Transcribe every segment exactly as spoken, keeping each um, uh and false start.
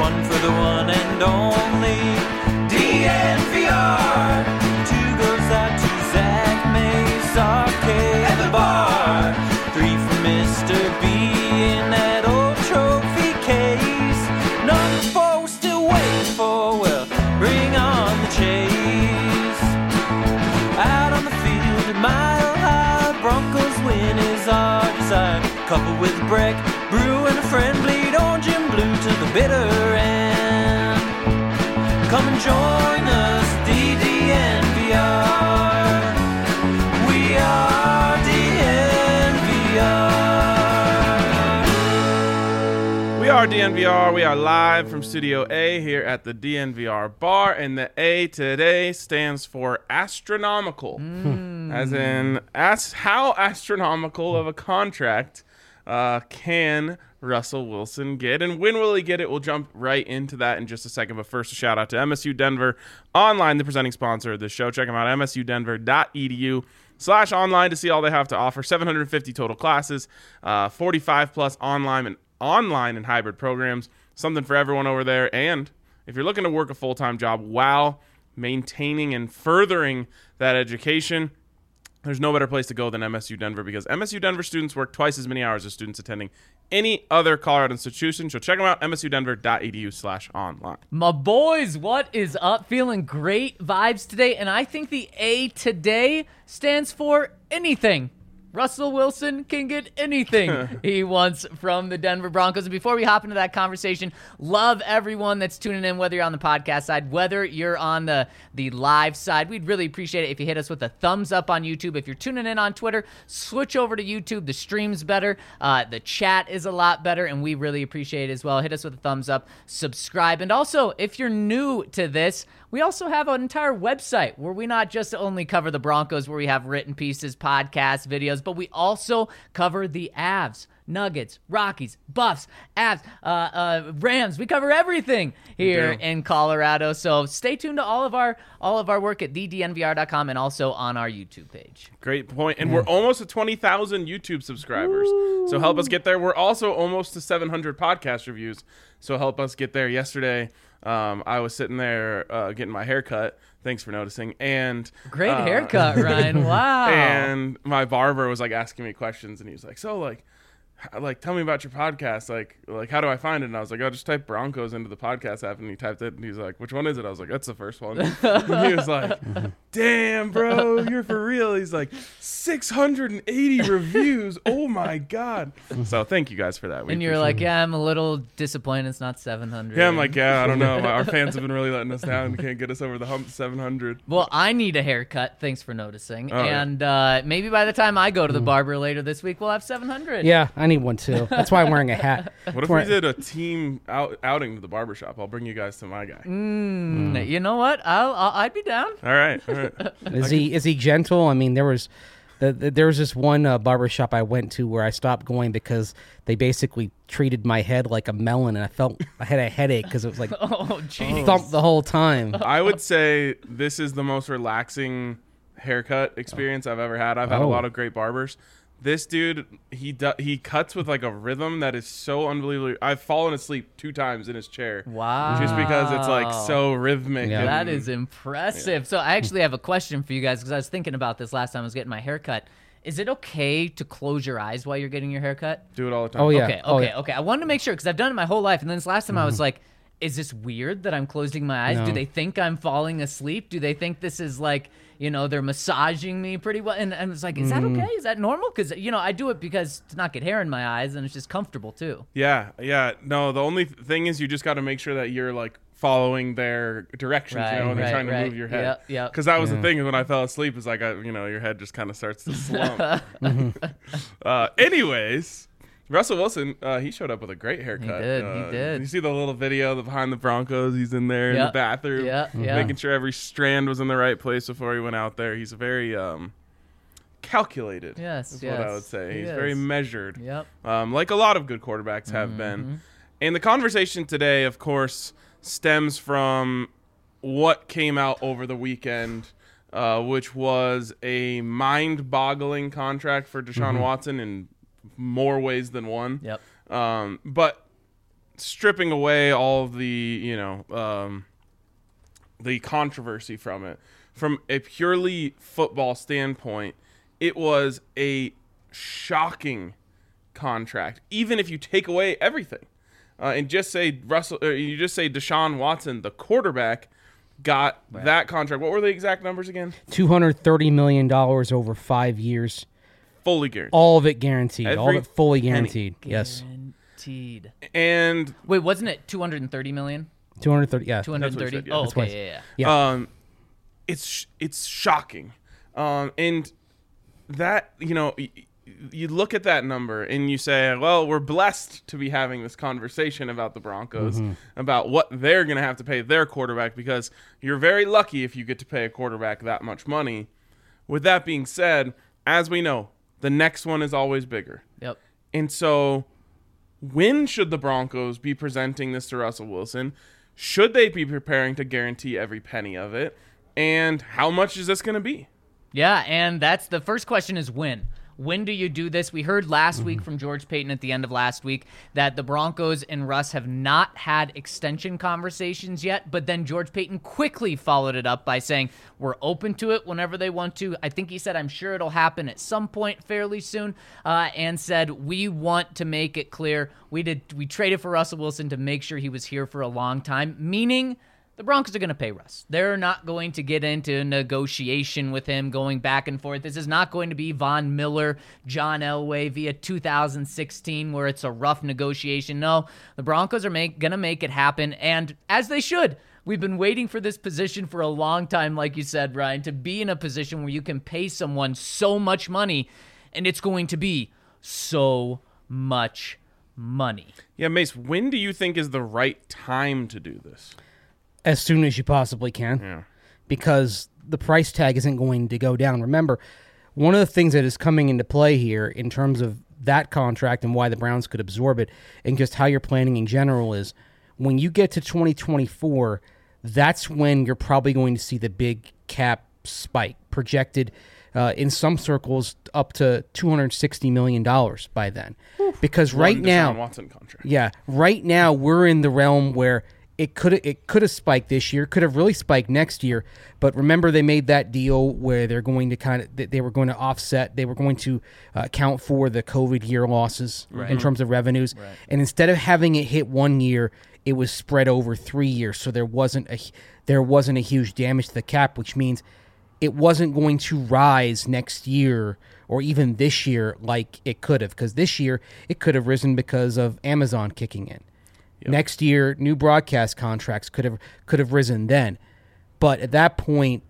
one for the one and only D N V R. Two goes out to Zach Mace, Arcade, and the bar. Three for Mister B in that old trophy case. Number four we're still waiting for, well, bring on the chase. Out on the field at Mile High, Broncos win is our desire. Coupled with a break, brew and a friend, bleed orange and blue to the bitter end. Come and join us, D D N V R. We are D N V R. We are D N V R. We are live from Studio A here at the D N V R bar, and the A today stands for astronomical, mm. as in as how astronomical of a contract uh, can Russell Wilson get, and when will he get it? We'll jump right into that in just a second. But first, a shout out to M S U Denver Online, the presenting sponsor of the show. Check them out, m s u denver dot e d u slash online to see all they have to offer. seven hundred fifty total classes, uh, forty-five plus online and online and hybrid programs, something for everyone over there. And if you're looking to work a full-time job while maintaining and furthering that education, there's no better place to go than M S U Denver, because M S U Denver students work twice as many hours as students attending any other Colorado institution. So check them out, m s u denver dot e d u slash online. My boys, what is up? Feeling great vibes today, and I think the A today stands for anything. Russell Wilson can get anything he wants from the Denver Broncos. And before we hop into that conversation, love everyone that's tuning in, whether you're on the podcast side, whether you're on the, the live side. We'd really appreciate it if you hit us with a thumbs up on YouTube. If you're tuning in on Twitter, switch over to YouTube. The stream's better. Uh, the chat is a lot better, and we really appreciate it as well. Hit us with a thumbs up, subscribe. And also, if you're new to this, we also have an entire website where we not just only cover the Broncos, where we have written pieces, podcasts, videos, but we also cover the Avs, Nuggets, Rockies, Buffs, Avs, uh, uh, Rams. We cover everything here in Colorado. So stay tuned to all of our all of our work at the d n v r dot com and also on our YouTube page. Great point. And we're almost at twenty thousand YouTube subscribers. Ooh. So help us get there. We're also almost to seven hundred podcast reviews. So help us get there. Yesterday, um, I was sitting there uh, getting my hair cut. Thanks for noticing. And great uh, haircut, Ryan. Wow. And my barber was like asking me questions, and he was like, so like, like, tell me about your podcast. Like, like, how do I find it? And I was like, oh, just type Broncos into the podcast app. And he typed it, and he's like, which one is it? I was like, that's the first one. And he was like, damn, bro, you're for real. He's like, six hundred eighty reviews. Oh my God. So thank you guys for that. We and you're like, yeah, I'm a little disappointed it's not seven hundred. Yeah, I'm like, yeah, I don't know. Our fans have been really letting us down. They can't get us over the hump to seven hundred. Well, I need a haircut. Thanks for noticing. Oh, and yeah. uh, maybe by the time I go to the barber later this week, we'll have seven hundred. Yeah, I need one too. That's why I'm wearing a hat. What if we did a team out, outing to the barbershop? I'll bring you guys to my guy. Mm, mm. You know what? I'll, I'll I'd be down. All right. All right. Is he is he gentle? I mean, there was the, the, there was this one uh, barbershop I went to where I stopped going because they basically treated my head like a melon, and I felt I had a headache because it was like oh, geez. thumped the whole time. I would say this is the most relaxing haircut experience I've ever had. I've had oh. a lot of great barbers. This dude, he do, he cuts with like a rhythm that is so unbelievable. I've fallen asleep two times in his chair. Wow. Just because it's like so rhythmic. Yeah. And, that is impressive. Yeah. So I actually have a question for you guys, because I was thinking about this last time I was getting my haircut. Is it okay to close your eyes while you're getting your haircut? Do it all the time. Oh, yeah. Okay, okay, oh, yeah. okay. I wanted to make sure, because I've done it my whole life. And then this last time mm-hmm. I was like, is this weird that I'm closing my eyes? No. Do they think I'm falling asleep? Do they think this is like, you know, they're massaging me pretty well? And, and it's like, is mm. that okay? Is that normal? Because, you know, I do it because to not get hair in my eyes, and it's just comfortable too. Yeah, yeah. No, the only thing is you just got to make sure that you're like follling their directions, right, you know, when right, they're trying to right. move your head. Yeah, yeah. Because that was yeah. the thing, is when I fell asleep, is like, I, you know, your head just kind of starts to slump. uh, anyways, Russell Wilson, uh, he showed up with a great haircut. He did, uh, he did. You see the little video the behind the Broncos? He's in there yep. in the bathroom, yeah, yeah. making sure every strand was in the right place before he went out there. He's very um, calculated. Yes, is yes. what I would say. He He's is. very measured, Yep. um, like a lot of good quarterbacks have mm-hmm. been. And the conversation today, of course, stems from what came out over the weekend, uh, which was a mind-boggling contract for Deshaun mm-hmm. Watson in more ways than one. Yep. Um, but stripping away all of the, you know, um, the controversy from it, from a purely football standpoint, it was a shocking contract. Even if you take away everything, uh, and just say Russell, or you just say Deshaun Watson, the quarterback, got right. that contract. What were the exact numbers again? two hundred thirty million dollars over five years. Fully guaranteed. All of it guaranteed. Every all of it fully guaranteed. penny. Yes. Guaranteed. And wait, wasn't it two hundred thirty million? two hundred thirty. Yeah. two hundred thirty. Said, yeah. Oh, That's okay. what Yeah, yeah. yeah. Um, it's it's shocking. Um, and that, you know, y- you look at that number and you say, well, we're blessed to be having this conversation about the Broncos, Mm-hmm. about what they're going to have to pay their quarterback, because you're very lucky if you get to pay a quarterback that much money. With that being said, as we know, the next one is always bigger. Yep. And so when should the Broncos be presenting this to Russell Wilson? Should they be preparing to guarantee every penny of it? And how much is this going to be? Yeah, and that's the first question is when. When do you do this? We heard last week from George Payton at the end of last week that the Broncos and Russ have not had extension conversations yet, but then George Payton quickly followed it up by saying, we're open to it whenever they want to. I think he said, I'm sure it'll happen at some point fairly soon, uh, and said, we want to make it clear. We did. We traded for Russell Wilson to make sure he was here for a long time, meaning the Broncos are going to pay Russ. They're not going to get into negotiation with him going back and forth. This is not going to be Von Miller, John Elway via two thousand sixteen where it's a rough negotiation. No, the Broncos are make, going to make it happen, and as they should. We've been waiting for this position for a long time, like you said, Ryan, to be in a position where you can pay someone so much money, and it's going to be so much money. Yeah, Mace, when do you think is the right time to do this? As soon as you possibly can. Yeah. Because the price tag isn't going to go down. Remember, one of the things that is coming into play here in terms of that contract and why the Browns could absorb it and just how you're planning in general is when you get to twenty twenty-four, that's when you're probably going to see the big cap spike projected uh, in some circles up to two hundred sixty million dollars by then. Oof. Because right One now, Deshaun Watson contract. yeah, right now we're in the realm where It could it could have spiked this year, could have really spiked next year. But remember, they made that deal where they're going to kind of they were going to offset, they were going to uh, account for the COVID year losses right. in terms of revenues. Right. And instead of having it hit one year, it was spread over three years. So there wasn't a there wasn't a huge damage to the cap, which means it wasn't going to rise next year or even this year like it could have, because this year it could have risen because of Amazon kicking in. Yep. Next year, new broadcast contracts could have could have risen then, but at that point,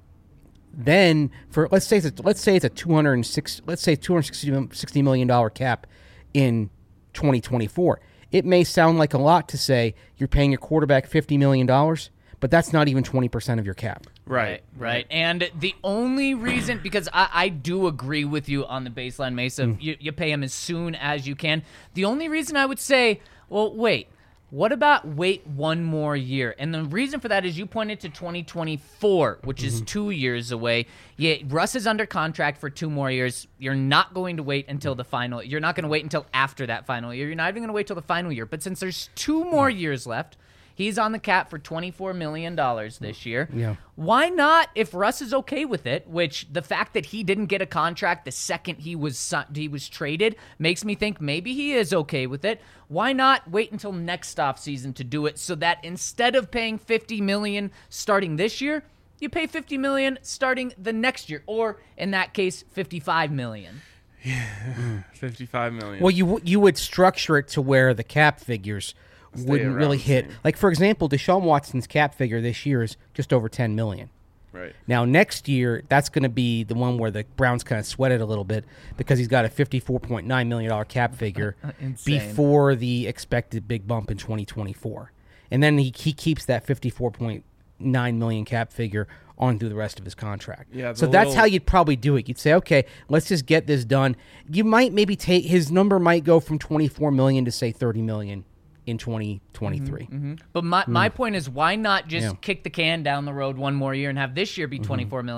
then for let's say it's a, let's say it's a two hundred six let's say two hundred sixty million dollar cap in twenty twenty-four. It may sound like a lot to say you're paying your quarterback fifty million dollars, but that's not even twenty percent of your cap. Right, right. And the only reason, because I, I do agree with you on the baseline, Mesa, mm. you, you pay him as soon as you can. The only reason I would say, well, wait. What about wait one more year? And the reason for that is you pointed to twenty twenty-four, which is mm-hmm. two years away. Yeah, Russ is under contract for two more years. You're not going to wait until the final. You're not going to wait until after that final year. You're not even going to wait till the final year. But since there's two more years left, he's on the cap for twenty-four million dollars this year. Yeah. Why not, if Russ is okay with it, which the fact that he didn't get a contract the second he was he was traded makes me think maybe he is okay with it. Why not wait until next offseason to do it so that instead of paying fifty million dollars starting this year, you pay fifty million dollars starting the next year, or in that case, fifty-five million dollars. Yeah, fifty-five million dollars. Well, you you would structure it to where the cap figures Stay wouldn't really hit. Same. Like, for example, Deshaun Watson's cap figure this year is just over ten million dollars. Right. Now, next year, that's going to be the one where the Browns kind of sweated a little bit because he's got a fifty-four point nine million dollars cap figure before the expected big bump in twenty twenty-four. And then he, he keeps that fifty-four point nine million dollars cap figure on through the rest of his contract. Yeah, so that's little... how you'd probably do it. You'd say, okay, let's just get this done. You might maybe take his number might go from twenty-four million dollars to, say, thirty million dollars. In twenty twenty-three. Mm-hmm, mm-hmm. But my, mm. my point is, why not just yeah. kick the can down the road one more year and have this year be twenty-four mm-hmm. million,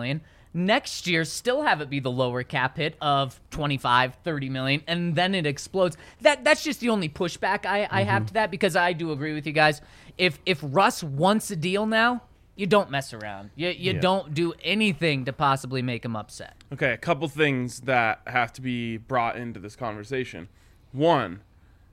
next year still have it be the lower cap hit of twenty-five, thirty million, and then it explodes. That that's just the only pushback I, I have to that, because I do agree with you guys. If if Russ wants a deal now, you don't mess around. You you Yeah. don't do anything to possibly make him upset. Okay, a couple things that have to be brought into this conversation. One,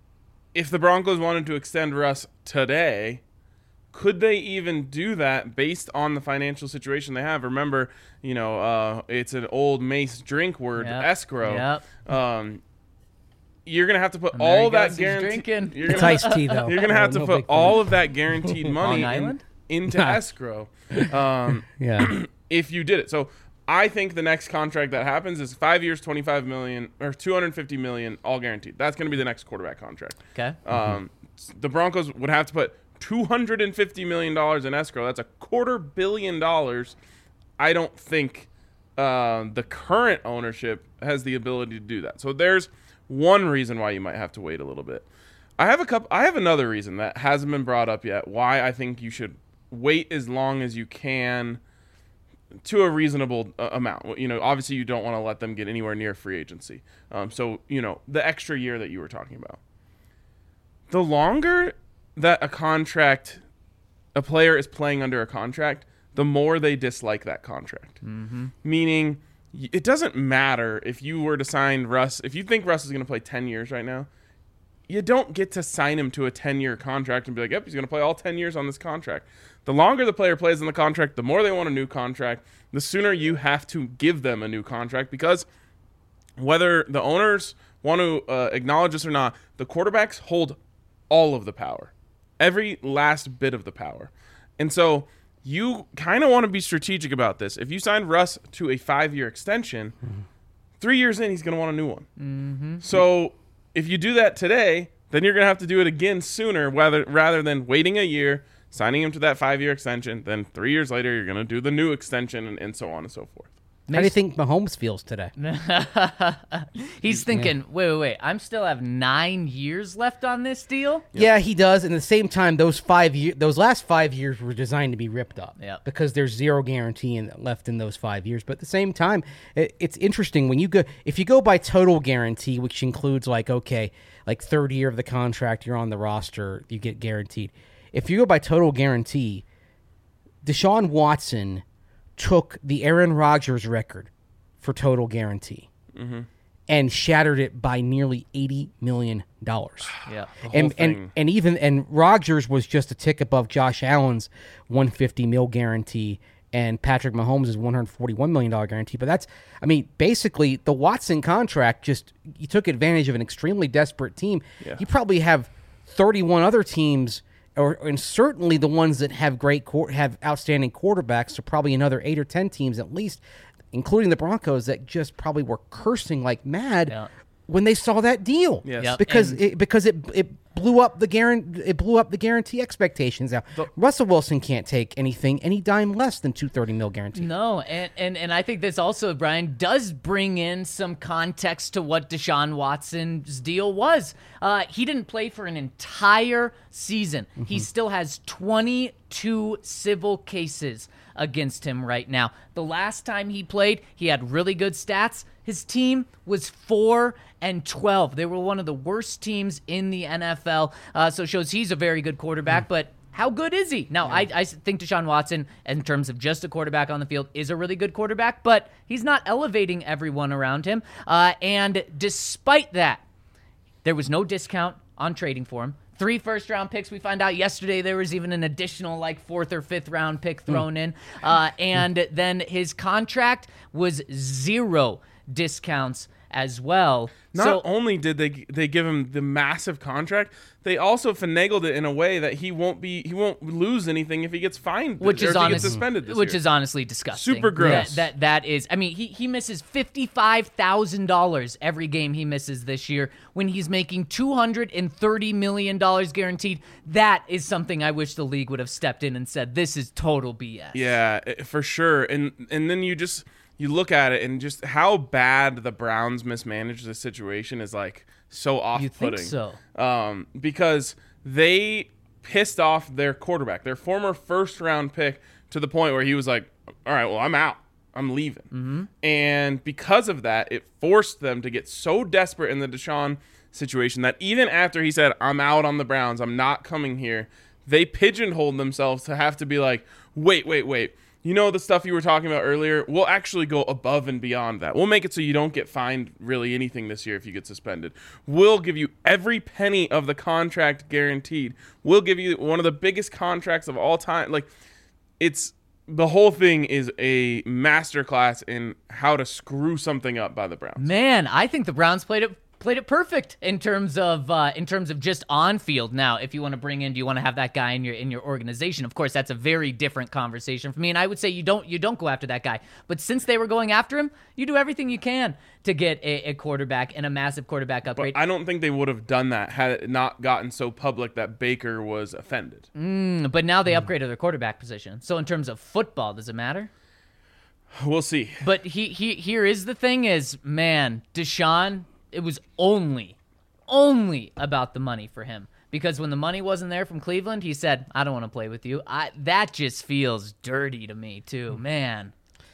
if the Broncos wanted to extend Russ today, could they even do that based on the financial situation they have? Remember, you know, uh, it's an old Mace drink word, Yep. escrow. Yep. Um, you're gonna have to put And there he all that goes, he's guarantee. drinking. You're It's gonna, iced tea, though. you're gonna have No to put big fan. all of that guaranteed money Long in- Island? into escrow. Um, Yeah. if you did it. So I think the next contract that happens is five years, twenty-five million or two hundred fifty million, all guaranteed. That's going to be the next quarterback contract. Okay. Um, the Broncos would have to put two hundred fifty million dollars in escrow. That's a quarter billion dollars. I don't think uh, the current ownership has the ability to do that. So there's one reason why you might have to wait a little bit. I have a couple. I have another reason that hasn't been brought up yet. Why I think you should wait as long as you can to a reasonable uh, amount. You know, obviously you don't want to let them get anywhere near free agency. Um, so you know the extra year that you were talking about. The longer that a contract, a player is playing under a contract, the more they dislike that contract. Mm-hmm. Meaning, y- it doesn't matter if you were to sign Russ. If you think Russ is going to play ten years right now, you don't get to sign him to a ten-year contract and be like, yep, he's going to play all ten years on this contract. The longer the player plays on the contract, the more they want a new contract, the sooner you have to give them a new contract, because whether the owners want to uh, acknowledge this or not, the quarterbacks hold all of the power, every last bit of the power. And so you kind of want to be strategic about this. If you signed Russ to a five-year extension, mm-hmm. three years in, he's going to want a new one. Mm-hmm. So if you do that today, then you're going to have to do it again sooner, rather, rather than waiting a year, signing him to that five-year extension. Then three years later, you're going to do the new extension, and, and so on and so forth. How do you think Mahomes feels today? He's thinking, wait, wait, wait. I'm still have nine years left on this deal? Yeah, he does. And at the same time, those five year, those last five years were designed to be ripped up. Yep. Because there's zero guarantee in, left in those five years. But at the same time, it, it's interesting when you go if you go by total guarantee, which includes like okay, like third year of the contract, you're on the roster, you get guaranteed. If you go by total guarantee, Deshaun Watson took the Aaron Rodgers record for total guarantee mm-hmm. and shattered it by nearly eighty million dollars. Yeah. And, and and even and Rodgers was just a tick above Josh Allen's one hundred fifty mil guarantee and Patrick Mahomes' one hundred forty-one million dollars guarantee. But that's, I mean, basically the Watson contract just, you took advantage of an extremely desperate team. Yeah. You probably have thirty-one other teams, or and certainly the ones that have great have outstanding quarterbacks, so probably another eight or ten teams at least, including the Broncos, that just probably were cursing like mad Yeah. when they saw that deal. Yes. Yep. Because And- it, because it it blew up the guarantee it blew up the guarantee expectations. Now Russell Wilson can't take anything any dime less than two thirty mil guarantee. No, and, and and I think this also, Brian, does bring in some context to what Deshaun Watson's deal was. Uh, he didn't play for an entire season. Mm-hmm. He still has twenty-two civil cases against him right now. The last time he played, he had really good stats. His team was four and twelve. They were one of the worst teams in the N F L. Uh, so it shows he's a very good quarterback, mm. but how good is he? Now, I, I think Deshaun Watson, in terms of just a quarterback on the field, is a really good quarterback, but he's not elevating everyone around him. Uh, and despite that, there was no discount on trading for him. Three first-round picks. We found out yesterday there was even an additional, like, fourth or fifth-round pick thrown mm. in. Uh, and then his contract was zero discounts as well. Not so, only did they they give him the massive contract, they also finagled it in a way that he won't be he won't lose anything if he gets fined, which or is if he honest, gets suspended this which year. is honestly disgusting. Super gross. That that, that is. I mean, he he misses fifty-five thousand dollars every game he misses this year when he's making two hundred and thirty million dollars guaranteed. That is something I wish the league would have stepped in and said, this is total B S. Yeah, for sure. And and then you just you look at it and just how bad the Browns mismanaged the situation is like so off-putting. You think so? Um, because they pissed off their quarterback, their former first-round pick, to the point where he was like, all right, well, I'm out. I'm leaving. Mm-hmm. And because of that, it forced them to get so desperate in the Deshaun situation that even after he said, I'm out on the Browns, I'm not coming here, they pigeonholed themselves to have to be like, wait, wait, wait. You know the stuff you were talking about earlier? We'll actually go above and beyond that. We'll make it so you don't get fined really anything this year if you get suspended. We'll give you every penny of the contract guaranteed. We'll give you one of the biggest contracts of all time. Like, it's the whole thing is a masterclass in how to screw something up by the Browns. Man, I think the Browns played it played it perfect in terms of uh, in terms of just on field. Now, if you want to bring in, do you want to have that guy in your in your organization? Of course, that's a very different conversation for me. And I would say you don't you don't go after that guy. But since they were going after him, you do everything you can to get a, a quarterback and a massive quarterback upgrade. But I don't think they would have done that had it not gotten so public that Baker was offended. Mm, but now they upgraded their quarterback position. So in terms of football, does it matter? We'll see. But he, he here is the thing: is man, Deshaun. It was only, only about the money for him. Because when the money wasn't there from Cleveland, he said, I don't want to play with you. I, that just feels dirty to me, too. Man.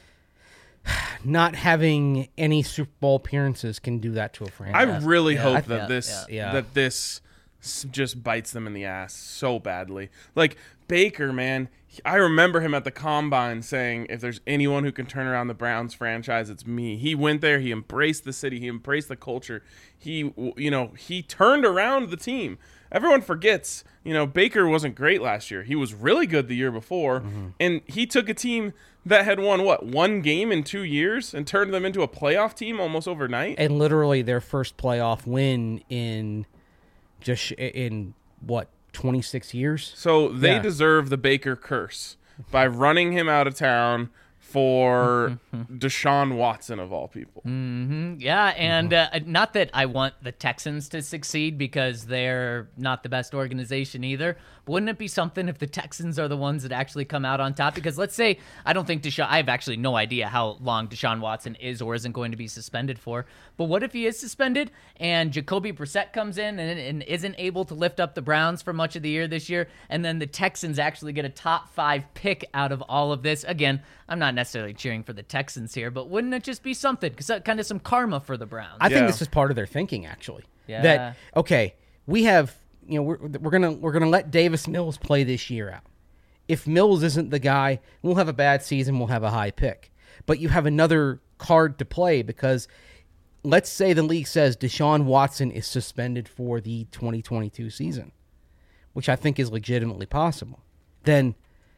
Not having any Super Bowl appearances can do that to a franchise. I really Yeah. hope I- that yeah, this yeah. that this s- just bites them in the ass so badly. Like Baker, man, he- I remember him at the Combine saying, if there's anyone who can turn around the Browns franchise, it's me. He went there, he embraced the city, he embraced the culture. He, w- you know, he turned around the team. Everyone forgets, you know, Baker wasn't great last year. He was really good the year before, Mm-hmm. and he took a team that had won, what, one game in two years and turned them into a playoff team almost overnight? And literally their first playoff win in just sh- in what twenty-six years. So they Yeah. deserve the Baker curse by running him out of town for Deshaun Watson, of all people. Mm, yeah, and uh, not that I want the Texans to succeed because they're not the best organization either. But wouldn't it be something if the Texans are the ones that actually come out on top? Because let's say, I don't think Deshaun, I have actually no idea how long Deshaun Watson is or isn't going to be suspended for. But what if he is suspended and Jacoby Brissett comes in and, and isn't able to lift up the Browns for much of the year this year, and then the Texans actually get a top five pick out of all of this? Again, I'm not necessarily cheering for the Texans here, but wouldn't it just be something? Because kind of some karma for the Browns. I think Yeah. this is part of their thinking, actually. Yeah. That okay, we have you know we're we're gonna we're gonna let Davis Mills play this year out. If Mills isn't the guy, we'll have a bad season. We'll have a high pick, but you have another card to play because let's say the league says Deshaun Watson is suspended for the twenty twenty-two season, which I think is legitimately possible. Then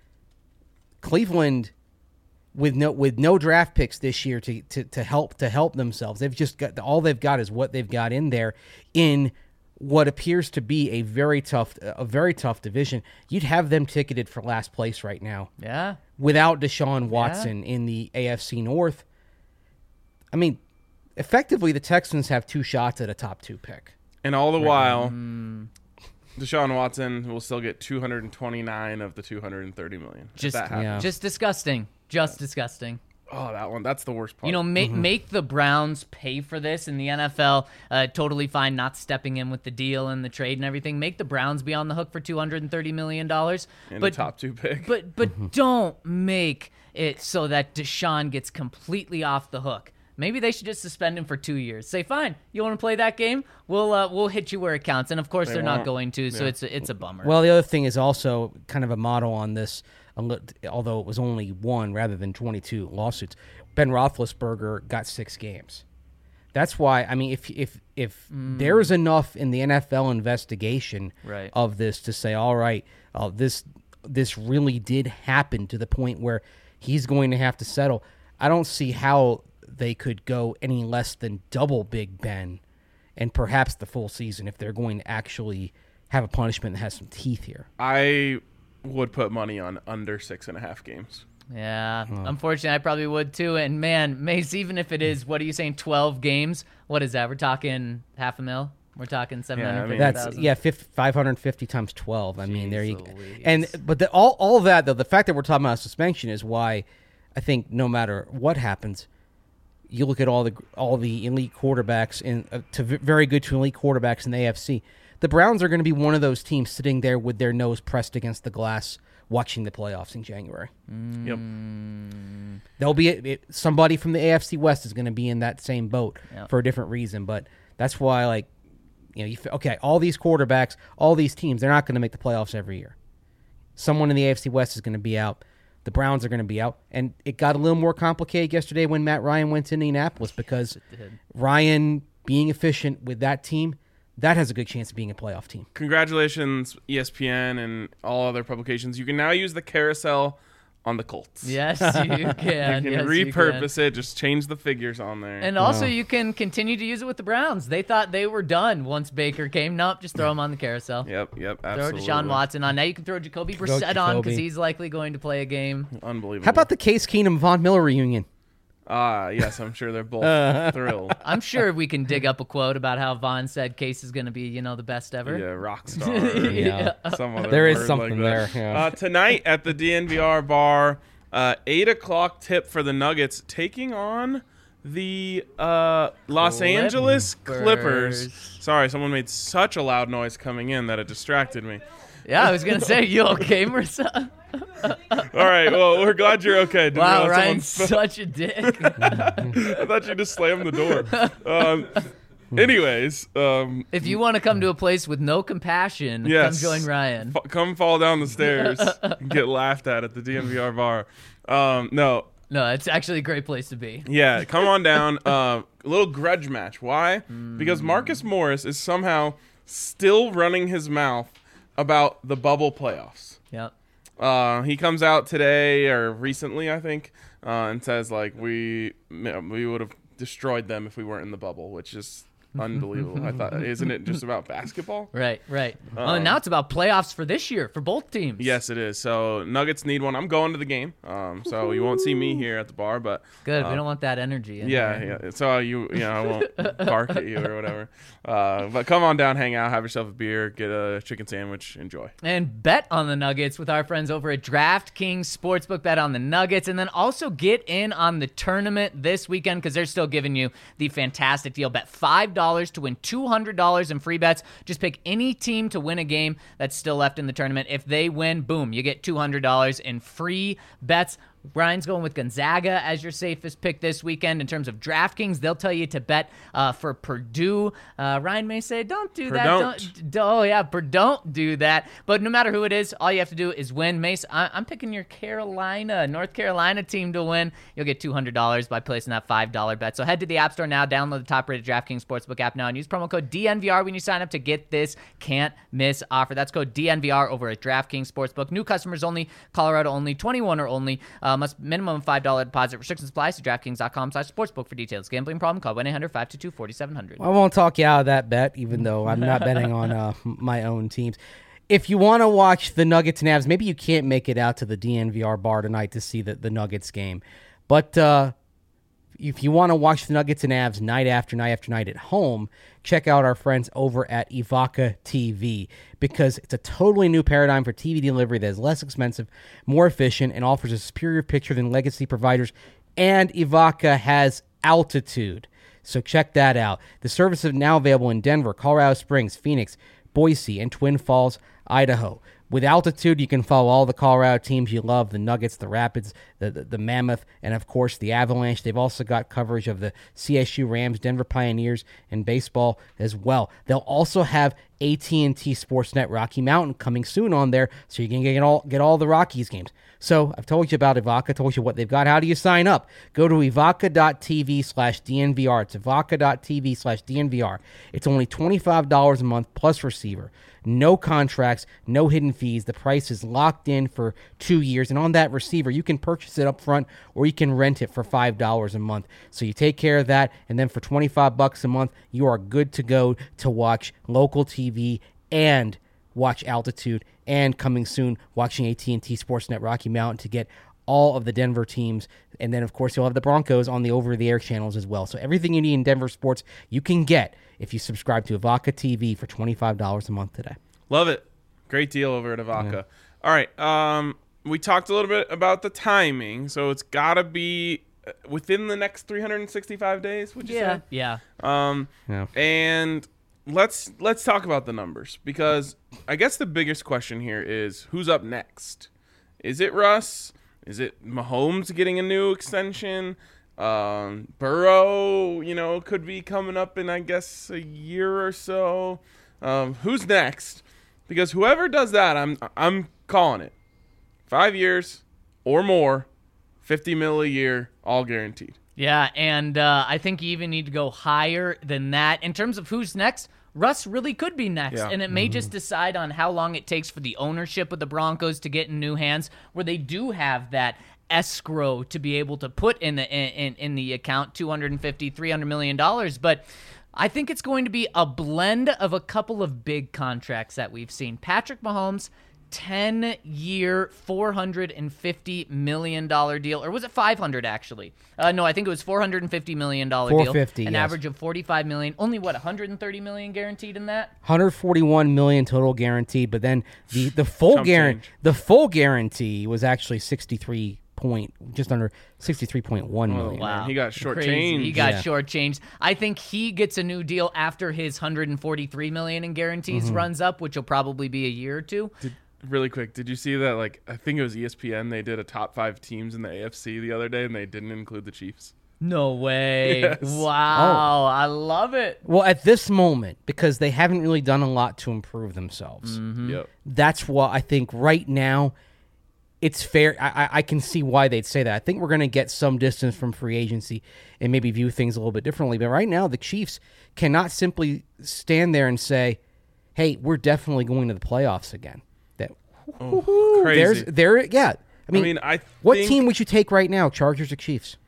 Cleveland, with no with no draft picks this year to, to, to help to help themselves, they've just got all they've got is what they've got in there in what appears to be a very tough a very tough division. You'd have them ticketed for last place right now Yeah. without Deshaun Watson in the A F C North. I mean, effectively, the Texans have two shots at a top two pick. And all the while, Deshaun Watson will still get two hundred twenty-nine of the two hundred thirty million. If Just, that happens. Yeah. just disgusting. Just disgusting. Oh, that one. That's the worst part. You know, make make the Browns pay for this in the N F L. Uh, totally fine not stepping in with the deal and the trade and everything. Make the Browns be on the hook for two hundred thirty million dollars. and But the top two pick. but but don't make it so that Deshaun gets completely off the hook. Maybe they should just suspend him for two years. Say, fine, you want to play that game? We'll uh, we'll hit you where it counts. And of course, They they are not won't. going to. So Yeah. it's a, it's a bummer. Well, the other thing is also kind of a model on this, a lit- although it was only one rather than twenty-two lawsuits. Ben Roethlisberger got six games. That's why, I mean, if if if there's enough in the N F L investigation Right. of this to say, all right, uh, this this really did happen to the point where he's going to have to settle, I don't see how they could go any less than double Big Ben and perhaps the full season if they're going to actually have a punishment that has some teeth here. I would put money on under six and a half games. Yeah, unfortunately, I probably would too. And man, Mace, even if it is, what are you saying, twelve games? What is that? We're talking half a mil? We're talking seven Yeah, I hundred mean- fifty That's thousand? yeah, five hundred fifty times twelve. I mean, there you go. Louise. And but the, all all that though, the fact that we're talking about suspension is why I think no matter what happens, you look at all the all the elite quarterbacks in uh, to v- very good to elite quarterbacks in the A F C. The Browns are going to be one of those teams sitting there with their nose pressed against the glass, watching the playoffs in January. Yep. There'll be a, it, somebody from the A F C West is going to be in that same boat Yep. for a different reason, but that's why, like, you know, you, f- okay, all these quarterbacks, all these teams, they're not going to make the playoffs every year. Someone in the A F C West is going to be out. The Browns are going to be out. And it got a little more complicated yesterday when Matt Ryan went to Indianapolis because Ryan being efficient with that team, that has a good chance of being a playoff team. Congratulations, E S P N and all other publications. You can now use the carousel on the Colts. Yes, you can. You can yes, repurpose you can. it. Just change the figures on there. And also, Wow. you can continue to use it with the Browns. They thought they were done once Baker came. Nope, just throw him on the carousel. yep, yep, Throw absolutely. Deshaun Watson on. Now you can throw Jacoby Throw Brissett on because Jacoby. he's likely going to play a game. Unbelievable. How about the Case Keenum Von Miller reunion? Ah, yes, I'm sure they're both thrilled. I'm sure we can dig up a quote about how Vaughn said Case is going to be, you know, the best ever. Yeah, rock star. or Yeah. Some other There is word something like that. there, yeah. Uh, tonight at the D N V R bar, uh, eight o'clock tip for the Nuggets taking on the uh, Los Angeles Clippers. Clippers. Sorry, someone made such a loud noise coming in that it distracted me. Yeah, I was going to say, you okay, Marissa? All right, well, we're glad you're okay. Didn't Wow, realize Ryan's someone- such a dick. I thought you just slammed the door. Um, anyways, um, If you want to come to a place with no compassion, yes, come join Ryan. F- come fall down the stairs and get laughed at at the D N V R bar. Um, no, No, it's actually a great place to be. yeah, come on down. Uh, a little grudge match. Why? Because Marcus Morris is somehow still running his mouth about the bubble playoffs. Yep. Uh, he comes out today or recently, I think, uh, and says like we we would have destroyed them if we weren't in the bubble, which is unbelievable. I thought, isn't it just about basketball? Right, right. well, Um, and now it's about playoffs for this year for both teams. Yes, it is. So Nuggets need one. I'm going to the game, um, so you won't see me here at the bar, but Good. uh, we don't want that energy. In yeah, there. yeah. So you, you know, I won't bark at you or whatever. Uh, but come on down, hang out, have yourself a beer, get a chicken sandwich, enjoy. And bet on the Nuggets with our friends over at DraftKings Sportsbook. Bet on the Nuggets. And then also get in on the tournament this weekend because they're still giving you the fantastic deal. Bet five dollars to win two hundred dollars in free bets. Just pick any team to win a game that's still left in the tournament. If they win, boom, you get two hundred dollars in free bets. Brian's going with Gonzaga as your safest pick this weekend. In terms of DraftKings, they'll tell you to bet uh, for Purdue. Uh, Ryan may say, don't do that. Perdon't. Don't, oh, yeah, per- don't do that. But no matter who it is, all you have to do is win. Mace, I- I'm picking your Carolina, North Carolina team to win. You'll get two hundred dollars by placing that five dollar bet. So head to the App Store now, download the top-rated DraftKings Sportsbook app now, and use promo code D N V R when you sign up to get this can't-miss offer. That's code D N V R over at DraftKings Sportsbook. New customers only, Colorado only, twenty-one or only. Uh, must minimum five dollar deposit. Restrictions apply. See DraftKings.com slash sportsbook for details. Gambling problem? Call one eight hundred five two two four seven zero zero. I won't talk you out of that bet, even though I'm not betting on uh, my own teams. If you want to watch the Nuggets and Avs, maybe you can't make it out to the D N V R bar tonight to see the, the Nuggets game. But uh, if you want to watch the Nuggets and Avs night after night after night at home, check out our friends over at Evoca T V because it's a totally new paradigm for T V delivery that is less expensive, more efficient, and offers a superior picture than legacy providers. And Evoca has altitude. So check that out. The service is now available in Denver, Colorado Springs, Phoenix, Boise, and Twin Falls, Idaho. With altitude, you can follow all the Colorado teams you love, the Nuggets, the Rapids, the, the, the Mammoth, and, of course, the Avalanche. They've also got coverage of the C S U Rams, Denver Pioneers, and baseball as well. They'll also have A T and T Sportsnet Rocky Mountain coming soon on there, so you can get all, get all the Rockies games. So I've told you about Evoca, told you what they've got. How do you sign up? Go to evoca.tv slash DNVR. It's evoca.tv slash DNVR. It's only twenty-five dollars a month plus receiver. No contracts, no hidden fees. The price is locked in for two years. And on that receiver, you can purchase it up front or you can rent it for five dollars a month. So you take care of that, and then for twenty-five bucks a month, you are good to go to watch local T V and watch altitude, and coming soon, watching A T and T Sportsnet Rocky Mountain to get all of the Denver teams. And then, of course, you'll have the Broncos on the over-the-air channels as well. So everything you need in Denver sports, you can get if you subscribe to Evoca T V for twenty-five dollars a month today. Love it. Great deal over at Evoca. Yeah. All right. Um, we talked a little bit about the timing, so it's got to be within the next three hundred sixty-five days, would you Yeah, say? yeah. Um, Yeah. And let's let's talk about the numbers because I guess the biggest question here is who's up next. Is it Russ? Is it Mahomes getting a new extension? Um, Burrow, you know, could be coming up in, I guess, a year or so. Um, who's next? Because whoever does that, I'm I'm calling it. Five years or more, fifty mil a year, all guaranteed. Yeah, and uh, I think you even need to go higher than that. In terms of who's next, Russ really could be next, Yeah. and it may just decide on how long it takes for the ownership of the Broncos to get in new hands, where they do have that escrow to be able to put in the in, in the account two hundred fifty, three hundred million dollars. But I think it's going to be a blend of a couple of big contracts that we've seen. Patrick Mahomes, ten-year, four hundred fifty million dollars deal. Or was it five hundred actually? Uh, no, I think it was four hundred fifty million dollars deal. four hundred fifty, An yes. average of forty-five million dollars. Only, what, one hundred thirty million dollars guaranteed in that? one hundred forty-one million total guaranteed, but then the the full Chump guarantee change. the full guarantee was actually sixty-three point just under sixty-three point one million. Wow. Man, he got Crazy. shortchanged. He got Yeah. shortchanged. I think he gets a new deal after his one hundred forty-three million dollars in guarantees Mm-hmm. runs up, which will probably be a year or two. Really quick, did you see that? Like, I think it was E S P N. They did a top five teams in the A F C the other day, and they didn't include the Chiefs. No way. Yes. Wow. I love it. Well, at this moment, because they haven't really done a lot to improve themselves, Yep. that's what I think right now it's fair. I, I- I can see why they'd say that. I think we're going to get some distance from free agency and maybe view things a little bit differently. But right now, the Chiefs cannot simply stand there and say, hey, we're definitely going to the playoffs again. That Oh, crazy. There's there, yeah. I mean, I mean, I what think team would you take right now? Chargers or Chiefs?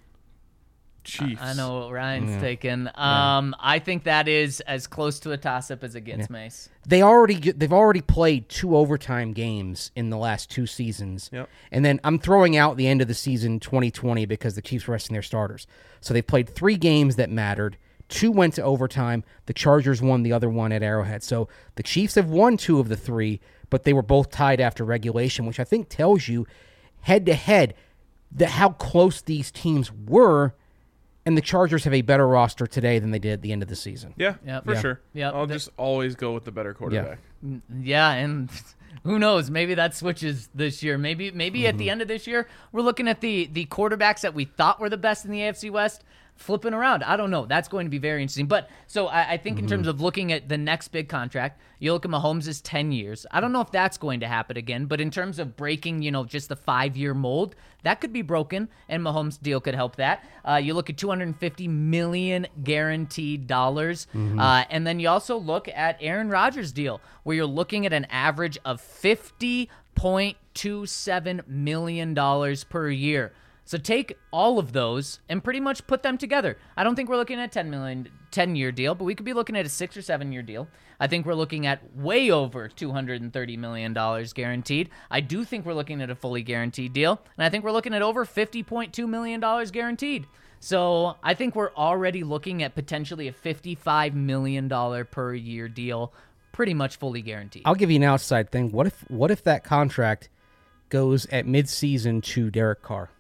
Chiefs. I know what Ryan's taking. Um, I think that is as close to a toss-up as it gets, Mace. They already get- they've already played two overtime games in the last two seasons. Yep. And then I'm throwing out the end of the season twenty twenty because the Chiefs were resting their starters. So they played three games that mattered. Two went to overtime. The Chargers won the other one at Arrowhead. So the Chiefs have won two of the three, but they were both tied after regulation, which I think tells you head to head that how close these teams were. And the Chargers have a better roster today than they did at the end of the season. Yeah, Yep. for Yeah. sure. Yep. I'll The- just always go with the better quarterback. Yeah, and who knows? Maybe that switches this year. Maybe maybe at the end of this year, we're looking at the the quarterbacks that we thought were the best in the A F C West flipping around. I don't know. That's going to be very interesting. But so I, I think in terms of looking at the next big contract, you look at Mahomes' ten years. I don't know if that's going to happen again, but in terms of breaking, you know, just the five-year mold, that could be broken, and Mahomes' deal could help that. Uh, you look at two hundred fifty million dollars guaranteed dollars, uh, and then you also look at Aaron Rodgers' deal, where you're looking at an average of fifty point two seven million dollars per year. So take all of those and pretty much put them together. I don't think we're looking at a ten million, ten-year deal, but we could be looking at a six or seven-year deal. I think we're looking at way over two hundred thirty million dollars guaranteed. I do think we're looking at a fully guaranteed deal, and I think we're looking at over fifty point two million dollars guaranteed. So I think we're already looking at potentially a fifty-five million dollars per year deal, pretty much fully guaranteed. I'll give you an outside thing. What if what if that contract goes at midseason to Derek Carr?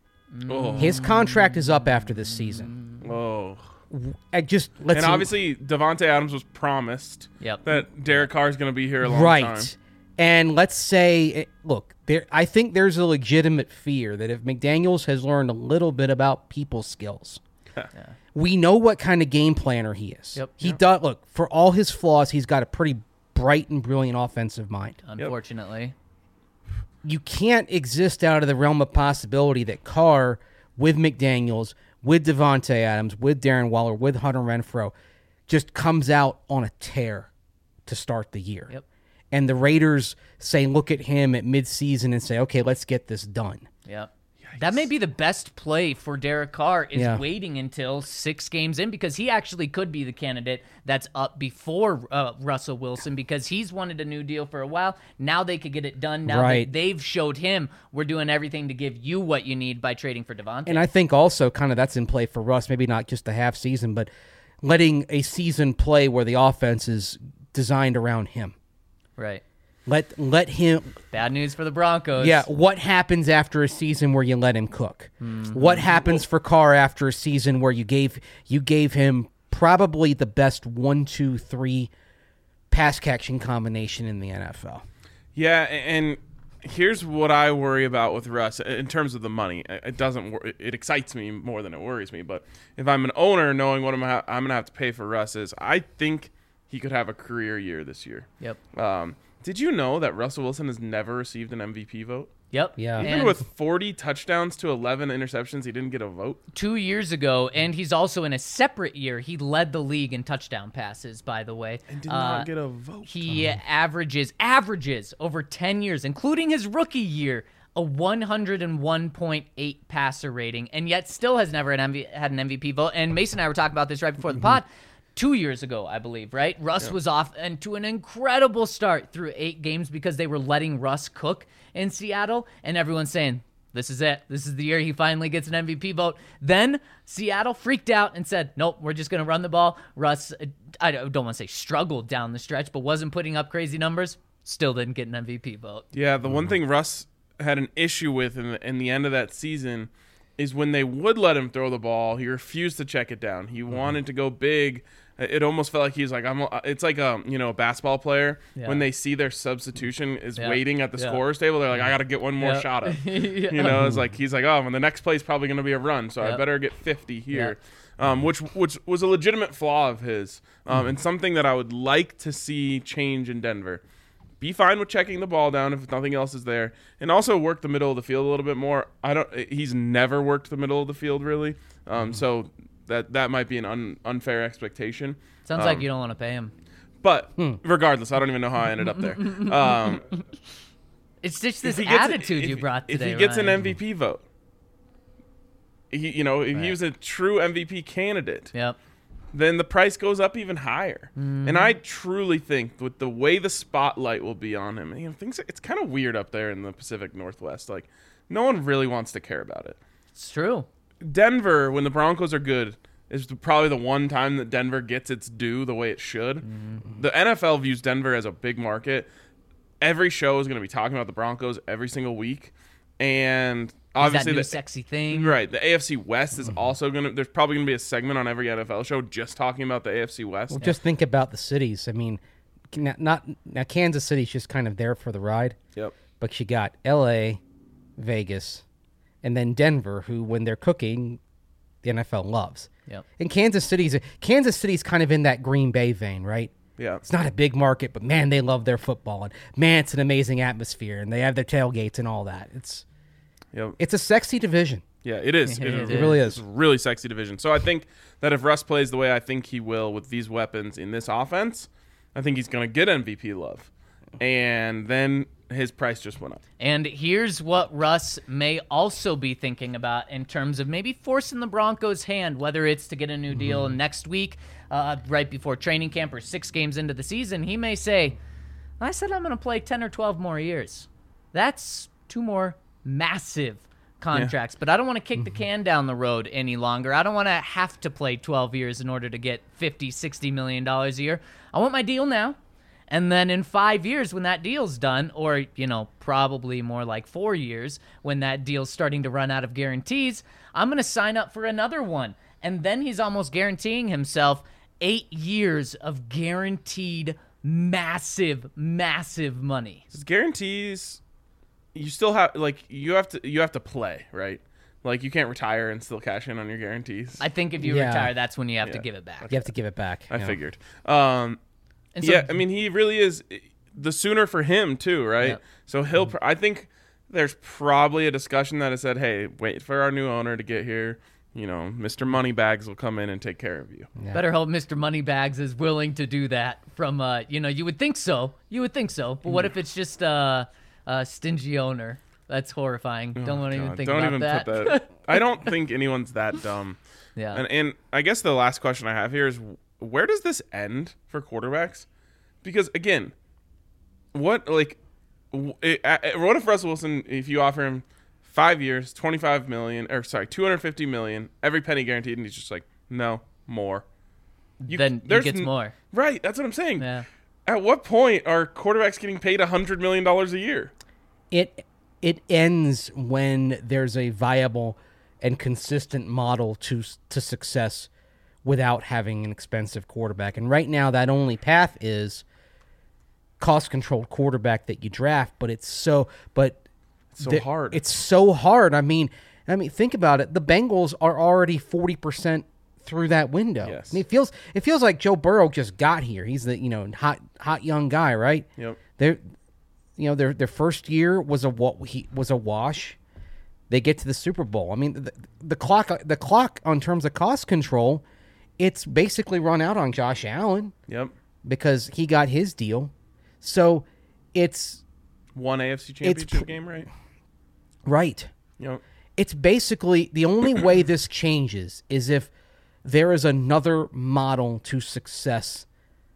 Oh, His contract is up after this season. oh. I just let's And obviously, Devontae Adams was promised Yep. that Derek Carr is going to be here a long right. time. And let's say, look, there. I think there's a legitimate fear that if McDaniels has learned a little bit about people skills, we know what kind of game planner he is. Yep. He does. Look, for all his flaws, he's got a pretty bright and brilliant offensive mind. Unfortunately. You can't exist out of the realm of possibility that Carr, with McDaniels, with Devontae Adams, with Darren Waller, with Hunter Renfrow, just comes out on a tear to start the year. Yep. And the Raiders say, look at him at midseason and say, okay, let's get this done. Yep. That may be the best play for Derek Carr is Yeah. waiting until six games in, because he actually could be the candidate that's up before uh, Russell Wilson, because he's wanted a new deal for a while. Now they could get it done. Now Right. that they've showed him we're doing everything to give you what you need by trading for Devontae. And I think also kind of that's in play for Russ, maybe not just a half season, but letting a season play where the offense is designed around him. right. Let let him Bad news for the Broncos. Yeah, what happens after a season where you let him cook? Mm-hmm. What happens for Carr after a season where you gave you gave him probably the best one, two, three pass catching combination in the N F L? Yeah, and here's what I worry about with Russ in terms of the money. It doesn't. wor- It excites me more than it worries me. But if I'm an owner, knowing what I'm ha- I'm gonna have to pay for Russ is, I think he could have a career year this year. Yep. Um, did you know that Russell Wilson has never received an M V P vote? Yep. Yeah. Even And with forty touchdowns to eleven interceptions, he didn't get a vote. two years ago, and he's also in a separate year. He led the league in touchdown passes, by the way. And did Uh, not get a vote. He averages averages over ten years, including his rookie year, a one hundred one point eight passer rating, and yet still has never had, M V- had an M V P vote. And Mason and I were talking about this right before the pod. Two years ago, I believe, right? Russ was off and to an incredible start through eight games because they were letting Russ cook in Seattle, and everyone's saying, this is it. This is the year he finally gets an M V P vote. Then Seattle freaked out and said, nope, we're just going to run the ball. Russ, uh, I don't want to say struggled down the stretch, but wasn't putting up crazy numbers. Still didn't get an M V P vote. Yeah, the one thing Russ had an issue with in the, in the end of that season is when they would let him throw the ball, he refused to check it down. He wanted to go big. It almost felt like he's like, I'm. It's like a you know a basketball player Yeah. when they see their substitution is Yeah. waiting at the Yeah. scorer's table. They're like, I got to get one more Yeah. shot up. Yeah. You know, it's like he's like, oh, and the next play is probably going to be a run, so Yeah. I better get fifty here. Um, which which was a legitimate flaw of his, um, and something that I would like to see change in Denver. Be fine with checking the ball down if nothing else is there, and also work the middle of the field a little bit more. I don't. He's never worked the middle of the field really, um, so that that might be an un, unfair expectation. Sounds Um, like you don't want to pay him. But regardless, I don't even know how I ended up there. Um, It's just this if he gets- attitude if- you brought If today, he gets an Ryan. M V P vote, he, you know, if he was a true M V P candidate, Yep. then the price goes up even higher. Mm-hmm. And I truly think with the way the spotlight will be on him, you know, things it's kind of weird up there in the Pacific Northwest. Like, no one really wants to care about it. It's true. Denver, when the Broncos are good, is probably the one time that Denver gets its due the way it should. Mm-hmm. The N F L views Denver as a big market. Every show is going to be talking about the Broncos every single week, and Is obviously that new the sexy thing? right the A F C West is also going to. There's probably going to be a segment on every N F L show just talking about the A F C West. Well, just think about the cities. I mean, not, not now Kansas City's just kind of there for the ride, Yep. but you got L A, Vegas, and then Denver, who when they're cooking, the N F L loves. Yep. And Kansas City's Kansas City's kind of in that Green Bay vein, right? Yeah. It's not a big market, but man, they love their football, and man, it's an amazing atmosphere, and they have their tailgates and all that. It's Yep. it's a sexy division. Yeah, it is. It It, is. it really It's is. a really sexy division. So I think that if Russ plays the way I think he will with these weapons in this offense, I think he's going to get M V P love. And then his price just went up. And here's what Russ may also be thinking about in terms of maybe forcing the Broncos' hand, whether it's to get a new deal next week, uh, right before training camp, or six games into the season. He may say, I said I'm going to play ten or twelve more years. That's two more massive contracts, but I don't want to kick the can down the road any longer. I don't want to have to play twelve years in order to get fifty, sixty million dollars a year. I want my deal now. And then in five years, when that deal's done, or, you know, probably more like four years, when that deal's starting to run out of guarantees, I'm going to sign up for another one. And then he's almost guaranteeing himself eight years of guaranteed massive, massive money. His guarantees, you still have like you have to you have to play, right? Like you can't retire and still cash in on your guarantees. I, I think if you Yeah. retire, that's when you have to Yeah. give it back. You have to give it back. you know. figured. Um, And so- yeah, I mean he really is the sooner for him too, right? Yeah. So he'll. pr- I think there's probably a discussion that has said, "Hey, wait for our new owner to get here. You know, Mister Moneybags will come in and take care of you." Better hope Mister Moneybags is willing to do that from, uh, you know, you would think so. You would think so. But what if it's just uh, a stingy owner? That's horrifying. Don't want to even God, think don't about even that. put that. I don't think anyone's that dumb. Yeah. And, and I guess the last question I have here is, where does this end for quarterbacks? Because again, what like, w- it, uh, what if Russell Wilson, if you offer him five years, twenty-five million, or sorry, two hundred fifty million, every penny guaranteed, and he's just like, no, more. You, Then he there's gets n- more. Right. That's what I'm saying. Yeah. At what point are quarterbacks getting paid a hundred million dollars a year? It it ends when there's a viable and consistent model to to success without having an expensive quarterback. And right now, that only path is cost-controlled quarterback that you draft. But it's so. But so the- hard. It's so hard. I mean, I mean, think about it. The Bengals are already forty percent through that window. Yes. I mean, it feels it feels like Joe Burrow just got here. He's the you know hot hot young guy, right? Yep. They're, you know, their their first year was a wa- he was a wash. They get to the Super Bowl. I mean, the, the clock the clock on terms of cost control, it's basically run out on Josh Allen Yep. because he got his deal. So it's One A F C Championship pr- game, right? right. Yep. It's basically the only way this changes is if there is another model to success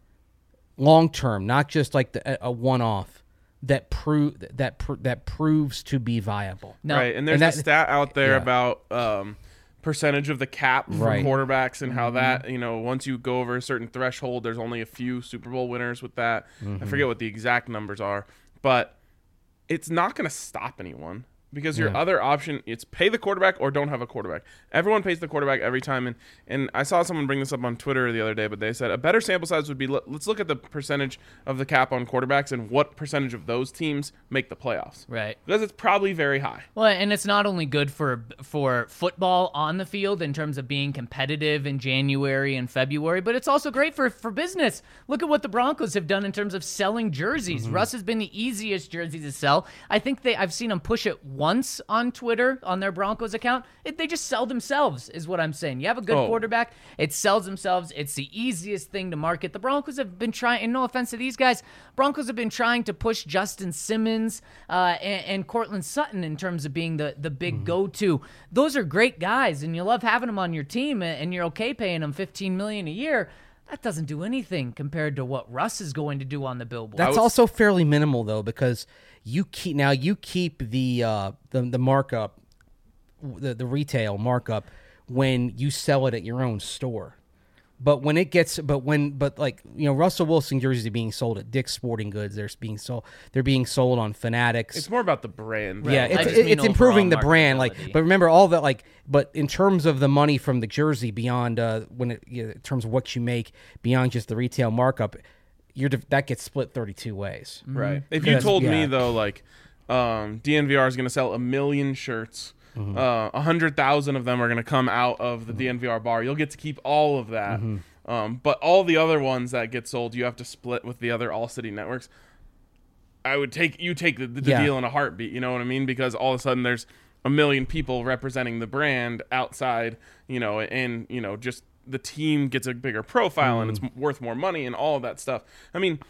long term, not just like the, a one off that prove that pr- that proves to be viable. No. Right, and there's And that- a stat out there yeah. about um, percentage of the cap for Right. quarterbacks and how that, you know, once you go over a certain threshold, there's only a few Super Bowl winners with that. I forget what the exact numbers are, but it's not going to stop anyone. Because your Yeah. other option, it's pay the quarterback or don't have a quarterback. Everyone pays the quarterback every time. And, and I saw someone bring this up on Twitter the other day, but they said a better sample size would be, let- let's look at the percentage of the cap on quarterbacks and what percentage of those teams make the playoffs. Right. Because it's probably very high. Well, and it's not only good for for football on the field in terms of being competitive in January and February, but it's also great for, for business. Look at what the Broncos have done in terms of selling jerseys. Mm-hmm. Russ has been the easiest jersey to sell. I think they I've seen them push it once on Twitter on their Broncos account. It, they just sell themselves, is what I'm saying. You have a good Oh. quarterback, it sells themselves. It's the easiest thing to market. The Broncos have been trying, and no offense to these guys, Broncos have been trying to push Justin Simmons uh, and, and Cortland Sutton in terms of being the, the big go-to. Those are great guys, and you love having them on your team, and you're okay paying them fifteen million dollars a year. That doesn't do anything compared to what Russ is going to do on the billboard. That's was- also fairly minimal though, because you keep now you keep the uh, the the markup, the the retail markup when you sell it at your own store. But when it gets, but when, but like you know, Russell Wilson jerseys are being sold at Dick's Sporting Goods. They're being sold. They're being sold on Fanatics. It's more about the brand. Yeah, I it's, just mean it's improving overall the brand. Like, marketability. but remember all that. Like, but in terms of the money from the jersey, beyond uh, when it, you know, in terms of what you make beyond just the retail markup, you're that gets split thirty-two ways. Right. If you Because- told me yeah. though, like, um, D N V R is going to sell a million shirts, a uh, hundred thousand of them are going to come out of the D N V R bar. You'll get to keep all of that, um, but all the other ones that get sold, you have to split with the other All City networks. I would take you take the, the Yeah. deal in a heartbeat. You know what I mean? Because all of a sudden there's a million people representing the brand outside. You know, and you know just the team gets a bigger profile and it's worth more money and all of that stuff. I mean.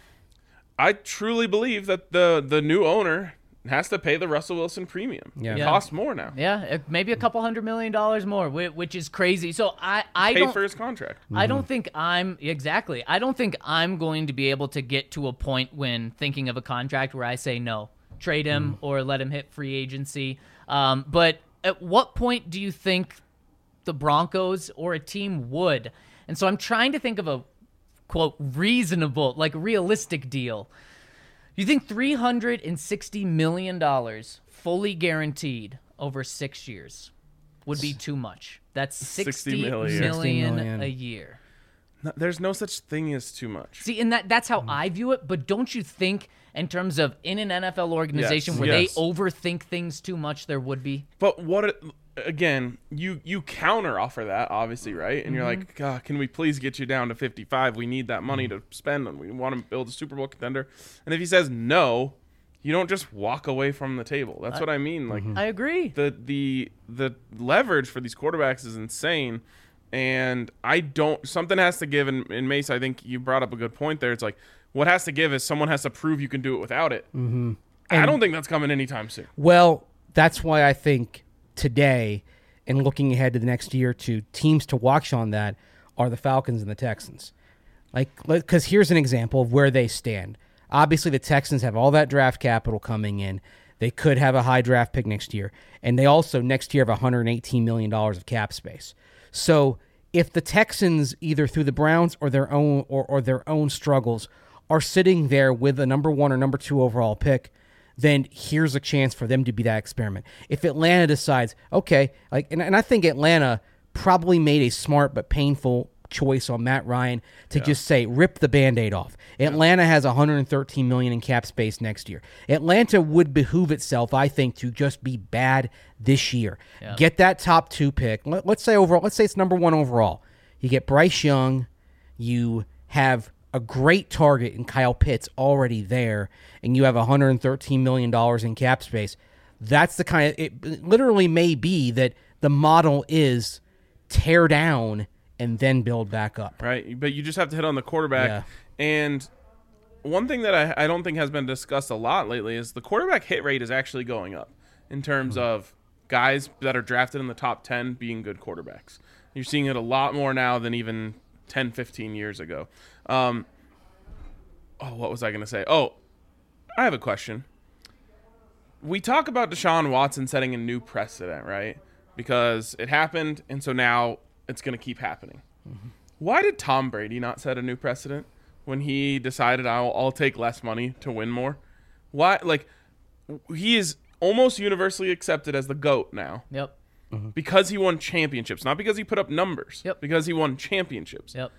I truly believe that the the new owner has to pay the Russell Wilson premium. Yeah. It Yeah. costs more now. Yeah, it- maybe a couple hundred million dollars more, whi- which is crazy. So I, I Pay don't, for his contract. I don't think I'm exactly. I don't think I'm going to be able to get to a point when thinking of a contract where I say no, trade him or let him hit free agency. Um, but at what point do you think the Broncos or a team would? And so I'm trying to think of a quote reasonable, like realistic deal. You think three hundred sixty million dollars fully guaranteed over six years would be too much? That's sixty sixty million. million sixty million a year. No, there's no such thing as too much. See, and that that's how I view it, but don't you think in terms of in an N F L organization Yes, where yes. they overthink things too much, there would be? But what it, again, you you counter offer that obviously, right? And you're like, God, can we please get you down to fifty-five? We need that money to spend and we want to build a Super Bowl contender. And if he says no, you don't just walk away from the table. That's what I mean. Like I agree. the the the leverage for these quarterbacks is insane, and I don't. Something has to give. And, and Mace, I think you brought up a good point there. It's like what has to give is someone has to prove you can do it without it. Mm-hmm. I don't think that's coming anytime soon. Well, that's why I think today, and looking ahead to the next year or two, teams to watch on that are the Falcons and the Texans. Like, because here's an example of where they stand. Obviously, the Texans have all that draft capital coming in. They could have a high draft pick next year. And they also, next year, have one hundred eighteen million dollars of cap space. So if the Texans, either through the Browns or their own or, or their own struggles, are sitting there with a number one or number two overall pick, then here's a chance for them to be that experiment. If Atlanta decides, okay, like, and, and I think Atlanta probably made a smart but painful choice on Matt Ryan to yeah. just say, rip the Band-Aid off. Atlanta yeah. has one hundred thirteen million dollars in cap space next year. Atlanta would behoove itself, I think, to just be bad this year. Yeah. Get that top two pick. Let, let's say overall, let's say it's number one overall. You get Bryce Young. You have a great target in Kyle Pitts already there, and you have one hundred thirteen million dollars in cap space. That's the kind of, it literally may be that the model is tear down and then build back up. Right, but you just have to hit on the quarterback. Yeah. And one thing that I, I don't think has been discussed a lot lately is the quarterback hit rate is actually going up in terms mm-hmm. of guys that are drafted in the top ten being good quarterbacks. You're seeing it a lot more now than even ten, fifteen years ago. Um, oh, what was I going to say? Oh, I have a question. We talk about Deshaun Watson setting a new precedent, right? Because it happened, and so now it's going to keep happening. Mm-hmm. Why did Tom Brady not set a new precedent when he decided I'll, I'll take less money to win more? Why? Like, he is almost universally accepted as the GOAT now. Yep. Mm-hmm. Because he won championships, not because he put up numbers. Yep. Because he won championships. Yep.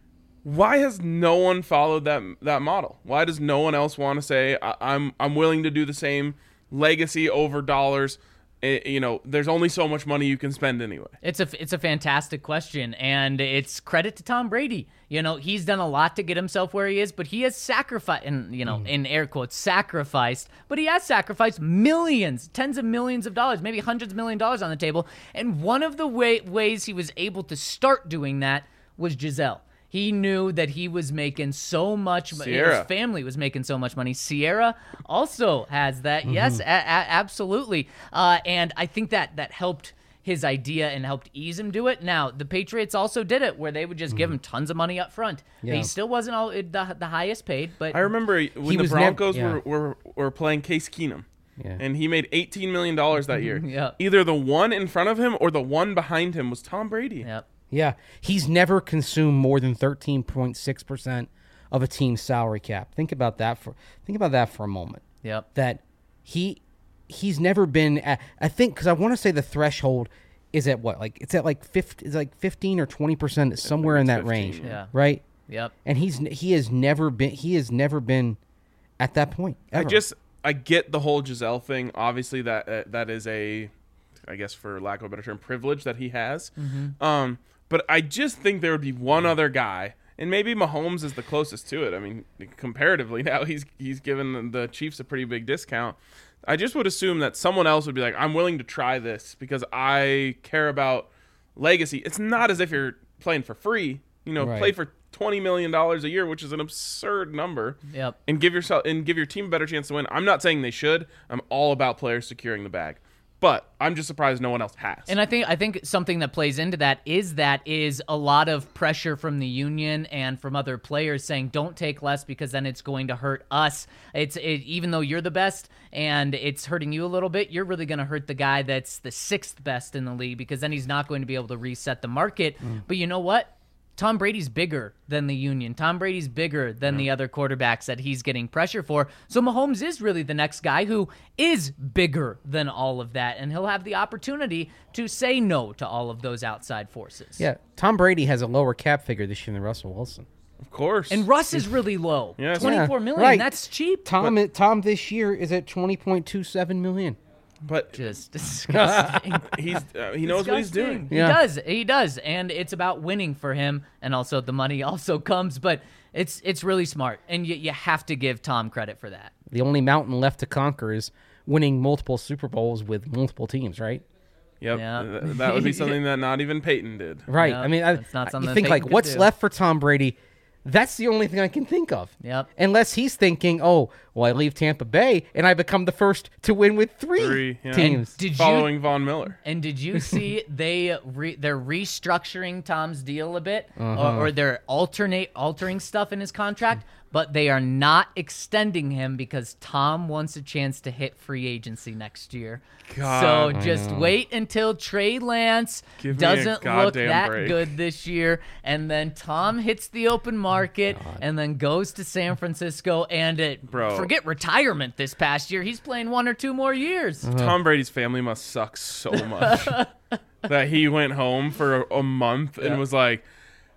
Why has no one followed that that model? Why does no one else want to say I, I'm I'm willing to do the same, legacy over dollars? It, you know, there's only so much money you can spend anyway. It's a it's a fantastic question, and it's credit to Tom Brady. You know, he's done a lot to get himself where he is, but he has sacrificed, and you know, mm. in air quotes, sacrificed. But he has sacrificed millions, tens of millions of dollars, maybe hundreds of million dollars on the table. And one of the way, ways he was able to start doing that was Gisele. He knew that he was making so much money. His family was making so much money. Ciara also has that. Mm-hmm. Yes, a- a- absolutely. Uh, and I think that that helped his idea and helped ease him do it. Now, the Patriots also did it where they would just mm-hmm. give him tons of money up front. Yeah. He still wasn't all the, the highest paid. But I remember when the Broncos nev- yeah. were, were, were playing Case Keenum. Yeah. And he made eighteen million dollars that year. Yep. Either the one in front of him or the one behind him was Tom Brady. Yep. Yeah, he's never consumed more than thirteen point six percent of a team's salary cap. Think about that for think about that for a moment. Yep. That he he's never been at, I think cuz I want to say the threshold is at what? Like it's at like fifty it's like fifteen or twenty percent somewhere in that fifteen, range, yeah. right? Yep. And he's he has never been he has never been at that point ever. I just I get the whole Gisele thing. Obviously that uh, that is a I guess for lack of a better term privilege that he has. Mm-hmm. Um But I just think there would be one other guy, and maybe Mahomes is the closest to it. I mean, comparatively now, he's he's given the Chiefs a pretty big discount. I just would assume that someone else would be like, I'm willing to try this because I care about legacy. It's not as if you're playing for free. You know, right. play for twenty million dollars a year, which is an absurd number. Yep. And give yourself and give your team a better chance to win. I'm not saying they should. I'm all about players securing the bag. But I'm just surprised no one else has. And I think I think something that plays into that is that is a lot of pressure from the union and from other players saying don't take less because then it's going to hurt us. It's it, even though you're the best and it's hurting you a little bit, you're really going to hurt the guy that's the sixth best in the league because then he's not going to be able to reset the market. Mm. But you know what? Tom Brady's bigger than the union. Tom Brady's bigger than yeah. the other quarterbacks that he's getting pressure for. So Mahomes is really the next guy who is bigger than all of that, and he'll have the opportunity to say no to all of those outside forces. Yeah, Tom Brady has a lower cap figure this year than Russell Wilson. Of course. And Russ is really low. Yes. twenty-four yeah, million. Right. That's cheap. Tom but, Tom this year is at twenty point two seven million. But just disgusting. he's uh, he knows disgusting. What he's doing. Yeah. He does. He does. And it's about winning for him, and also the money also comes, but it's it's really smart. And you you have to give Tom credit for that. The only mountain left to conquer is winning multiple Super Bowls with multiple teams, right? Yep. Yeah. That would be something that not even Peyton did. Right. Yep. I mean, I, That's not something you think Peyton like what's do. left for Tom Brady? That's the only thing I can think of. Yep. Unless he's thinking, oh, well, I leave Tampa Bay and I become the first to win with three, three yeah. teams. Did following you, Von Miller. And did you see they re, they're restructuring Tom's deal a bit, uh-huh. or, or they're alternate altering stuff in his contract, but they are not extending him because Tom wants a chance to hit free agency next year. God, so just wait until Trey Lance Give doesn't look that break. good this year, and then Tom hits the open market God. and then goes to San Francisco, and it, Bro. forget retirement this past year. He's playing one or two more years. Uh-huh. Tom Brady's family must suck so much that he went home for a, a month and Yeah. was like,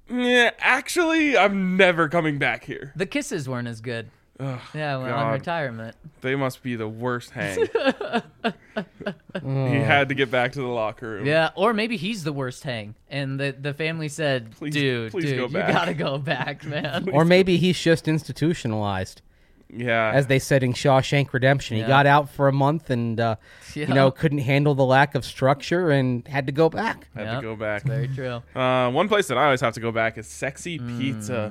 Yeah, actually, I'm never coming back here. The kisses weren't as good. Ugh, Yeah, well, God. on retirement. They must be the worst hang. He had to get back to the locker room. Yeah, or maybe he's the worst hang, and the the family said, Please- "Dude, please dude, go you back." gotta go back, man." Or maybe he's just institutionalized, Yeah. as they said in Shawshank Redemption. Yeah. He got out for a month and, uh, Yeah. you know, couldn't handle the lack of structure and had to go back. had Yep, to go back. Very true. Uh, one place that I always have to go back is Sexy Pizza.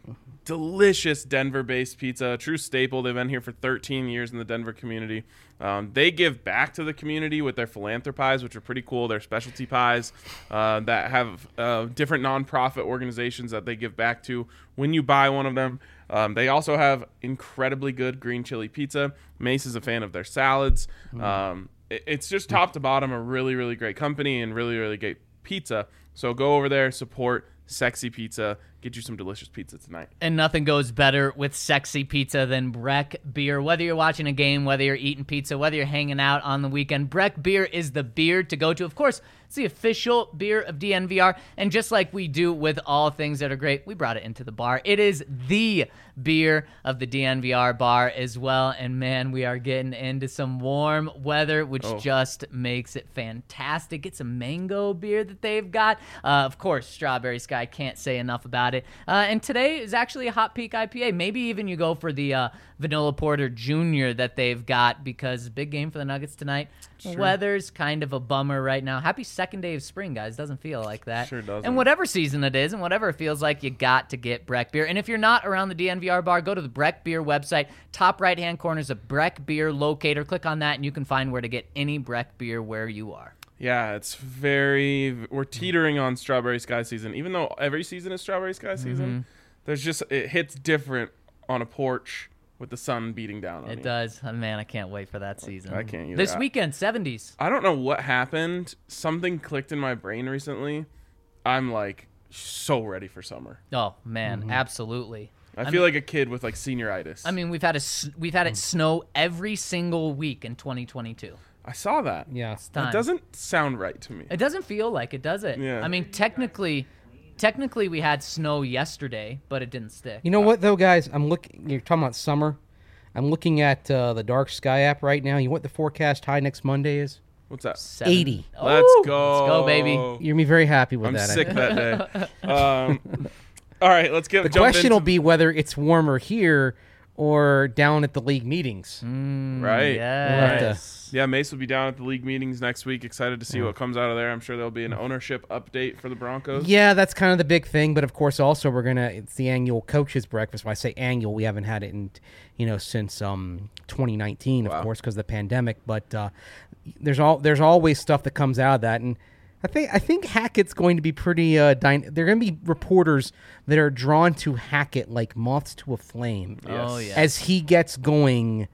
Delicious Denver-based pizza, a true staple. They've been here for thirteen years in the Denver community. Um, they give back to the community with their philanthropies, which are pretty cool. They're specialty pies uh, that have uh, different nonprofit organizations that they give back to when you buy one of them. Um, they also have incredibly good green chili pizza. Mace is a fan of their salads. Um, it, it's just top to bottom a really, really great company and really, really great pizza. So go over there, support Sexy Pizza. Get you some delicious pizza tonight. And nothing goes better with sexy pizza than Breck beer. Whether you're watching a game, whether you're eating pizza, whether you're hanging out on the weekend, Breck beer is the beer to go to. Of course, it's the official beer of D N V R. And just like we do with all things that are great, we brought it into the bar. It is the beer of the D N V R bar as well. And man, we are getting into some warm weather, which Oh. just makes it fantastic. Get some mango beer that they've got. Uh, of course, Strawberry Sky, can't say enough about it. Uh, and today is actually a Hot Peak I P A. Maybe even you go for the uh, Vanilla Porter Junior that they've got, because big game for the Nuggets tonight. Sure. Weather's kind of a bummer right now. Happy second day of spring, guys. Doesn't feel like that. Sure doesn't. And whatever season it is and whatever it feels like, you got to get Breck beer. And if you're not around the D N V R bar, go to the Breck beer website. Top right-hand corner is a Breck beer locator. Click on that and you can find where to get any Breck beer where you are. Yeah, it's very. We're teetering on Strawberry Sky season. Even though every season is Strawberry Sky season, Mm-hmm. there's just it hits different on a porch with the sun beating down on It you. does. Oh, man, I can't wait for that season. I can't either. This I- weekend, seventies. I don't know what happened. Something clicked in my brain recently. I'm like so ready for summer. Oh, man, Mm-hmm. absolutely. I, I feel mean- like a kid with like senioritis. I mean, we've had a s- we've had it snow every single week in twenty twenty-two. I saw that. Yeah. Time. It doesn't sound right to me. It doesn't feel like it, does it? Yeah. I mean, technically, technically we had snow yesterday, but it didn't stick. You know what, though, guys? I'm looking. You're talking about summer. I'm looking at uh, the Dark Sky app right now. You know what the forecast high next Monday is? What's that? Seven. eighty. Let's Ooh, go. Let's go, baby. You're gonna be very happy with I'm that. I sick think. that day. Um, all right, let's get The jump question into, will be whether it's warmer here or down at the league meetings. right. Yes. Yeah, Mace will be down at the league meetings next week. Excited to see what comes out of there. I'm sure there'll be an ownership update for the Broncos. Yeah, that's kind of the big thing. But of course, also we're gonna. It's the annual coaches breakfast. When I say annual, we haven't had it in, you know, since um twenty nineteen, of Wow. course, because of the pandemic. But uh, there's all there's always stuff that comes out of that, and I think I think Hackett's going to be pretty. Uh, dyna- They're going to be reporters that are drawn to Hackett like moths to a flame. Oh, Yes. yeah. As he gets going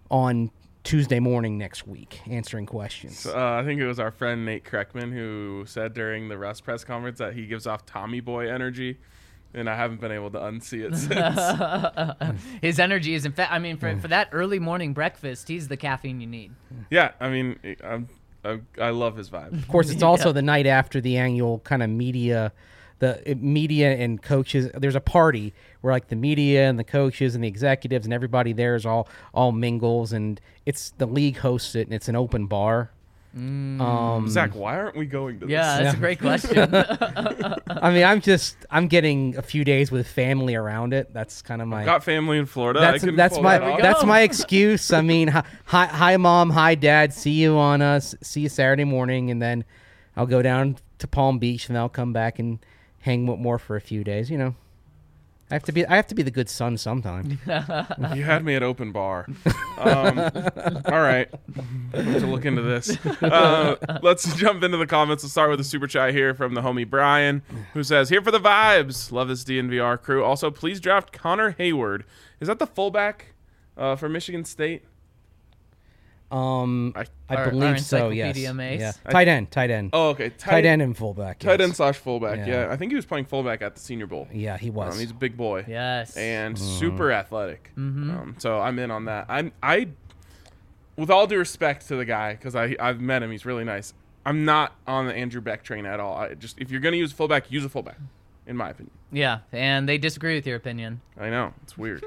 on Tuesday morning next week, answering questions. Uh, I think it was our friend Nate Kreckman who said during the Russ press conference that he gives off Tommy Boy energy, and I haven't been able to unsee it since. His energy is, in fact, I mean, for, for that early morning breakfast, he's the caffeine you need. yeah, I mean, I'm, I, I love his vibe. Of course, it's also the night after the annual kind of media, the uh, media and coaches. There's a party where like the media and the coaches and the executives and everybody there is all all mingles, and it's the league hosts it, and it's an open bar. Um, Zach, why aren't we going to this? Yeah, that's a great question. I mean, I'm just I'm getting a few days with family around it. That's kind of my. Got family in Florida. That's I can that's pull my that off. that's go. my excuse. I mean, hi, hi hi mom, hi dad. See you on us. See you Saturday morning, and then I'll go down to Palm Beach, and I'll come back and hang with more for a few days. You know, I have to be I have to be the good son sometime. You had me at open bar. Um, all right. I'm going to look into this. Uh, let's jump into the comments. Let's start with a super chat here from the homie Brian, who says, here for the vibes. Love this D N V R crew. Also, please draft Connor Hayward. Is that the fullback uh, for Michigan State? Um, I- I Our- our believe so. Yes. Encyclopedia Mace. Yeah. Tight end. Tight end. Oh, okay. tight end and fullback. Tight yes. end slash fullback. Yeah. Yeah. I think he was playing fullback at the Senior Bowl. Yeah, he was. Um, he's a big boy. Yes. And Mm-hmm. super athletic. Um, so I'm in on that. I'm I, with all due respect to the guy, because I I've met him, he's really nice. I'm not on the Andrew Beck train at all. I just if you're gonna use a fullback, use a fullback. in my opinion. Yeah, and they disagree with your opinion. I know it's weird.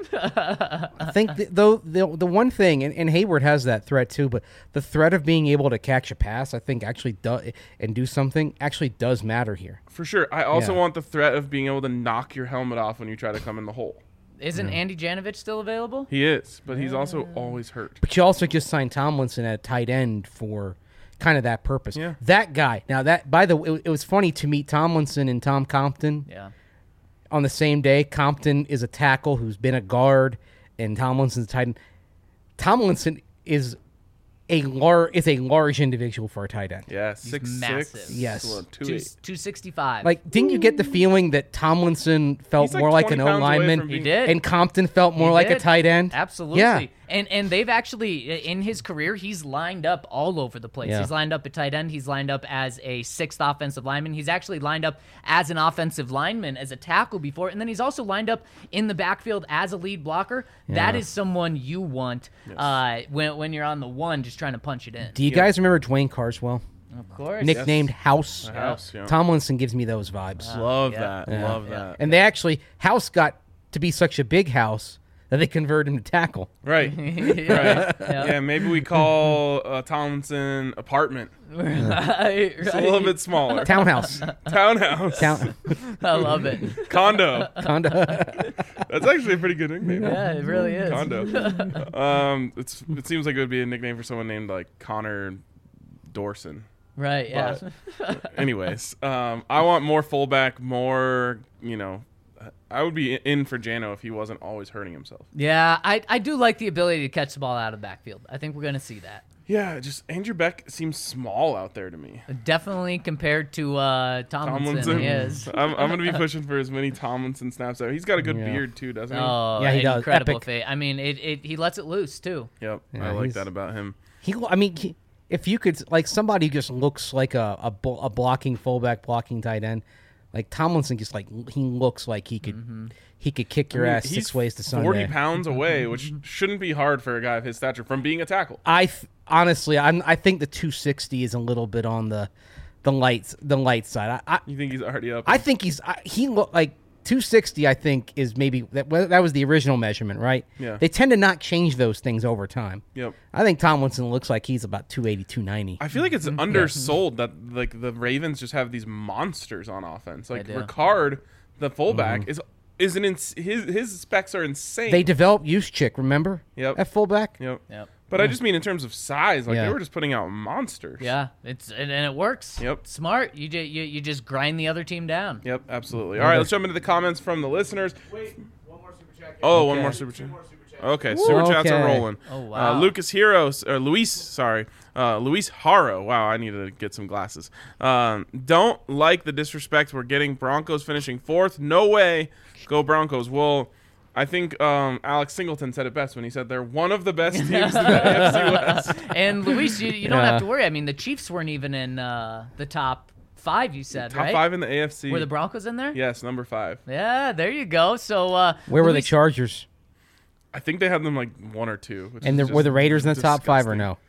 I think th- though the the one thing, and, and Hayward has that threat too, but the threat of being able to catch a pass, I think actually does and do something actually does matter here. For sure. I also Yeah. want the threat of being able to knock your helmet off when you try to come in the hole. Isn't Andy Janovich still available? He is, but he's also always hurt. But you also just signed Tomlinson at tight end for kind of that purpose. Yeah. That guy. Now that by the way, it, it was funny to meet Tomlinson and Tom Compton Yeah. on the same day. Compton is a tackle who's been a guard, and Tomlinson's a tight end. Tomlinson is a lar- is a large individual for a tight end. Yeah, six massive. six. Yes. Well, two Two, eight. two sixty-five. Like, didn't you get the feeling that Tomlinson felt He's like more like an twenty O pounds away lineman, from He being- did. and Compton felt more He like a did. tight end? Absolutely. Yeah. And and they've actually, in his career, he's lined up all over the place. Yeah. He's lined up at tight end. He's lined up as a sixth offensive lineman. He's actually lined up as an offensive lineman, as a tackle before. And then he's also lined up in the backfield as a lead blocker. That Yeah. is someone you want uh, when, when you're on the one just trying to punch it in. Do you guys remember Dwayne Carswell, Of course. nicknamed House? House, yeah. Tomlinson gives me those vibes. Love Yeah. that. Yeah. Love Yeah. that. And they actually, House got to be such a big house that they converted him to tackle. Right. yeah. Right. Yeah, maybe we call uh, Tomlinson apartment. Right, It's a little bit smaller. Townhouse. Townhouse. Town. I love it. Condo. Condo. That's actually a pretty good nickname. Yeah, it really is. Condo. um, it's it seems like it would be a nickname for someone named like Connor Dorson. Right, yeah. But anyways, um, I want more fullback, more, you know, I would be in for Jano if he wasn't always hurting himself. Yeah, I, I do like the ability to catch the ball out of the backfield. I think we're going to see that. Yeah, just Andrew Beck seems small out there to me. Definitely compared to uh, Tomlinson, Tomlinson. he is. I'm, I'm going to be pushing for as many Tomlinson snaps out. He's got a good Yeah. beard too, doesn't he? Oh, Yeah, he does. incredible Epic. fate. I mean, it, it he lets it loose too. Yep, Yeah, I like he's- that about him. He, I mean, he, if you could, like somebody who just looks like a, a, bl- a blocking fullback, blocking tight end, like Tomlinson just like, he looks like he could, Mm-hmm. he could kick your I mean, ass he's six ways to Sunday. forty pounds away, which shouldn't be hard for a guy of his stature from being a tackle. I th- honestly, I'm, I think the two sixty is a little bit on the, the lights, the light side. I, I, You think he's already up? I think he's I, he look like two sixty. I think is maybe that well, that was the original measurement, right? Yeah. They tend to not change those things over time. Yep. I think Tomlinson looks like he's about two eighty, two ninety. I feel like it's undersold that like the Ravens just have these monsters on offense. Like do. Ricard, the fullback, is is an ins- his his specs are insane. They developed Juszczyk, remember? Yep. At fullback. Yep. Yep. But I just mean in terms of size, like Yeah. they were just putting out monsters. Yeah, it's and, and it works. Yep. Smart. You, ju- you you just grind the other team down. Yep, absolutely. All right, let's jump into the comments from the listeners. Wait, one more super chat. Oh, one Okay. more super chat. Okay, super chats are Okay. rolling. Oh, wow. Uh, Lucas Heroes or Luis, sorry, uh, Luis Haro. Wow, I need to get some glasses. Um, don't like the disrespect we're getting. Broncos finishing fourth. No way. Go Broncos. Well, I think um, Alex Singleton said it best when he said they're one of the best teams in the A F C West. And Luis, you, you don't Yeah. have to worry. I mean, the Chiefs weren't even in uh, the top five. You said Top right? five in the A F C. Were the Broncos in there? Yes, number five. Yeah, there you go. So uh, Where were the Luis- Chargers? I think they had them like one or two. Which And is the, were just the Raiders in the top five or disgusting. no?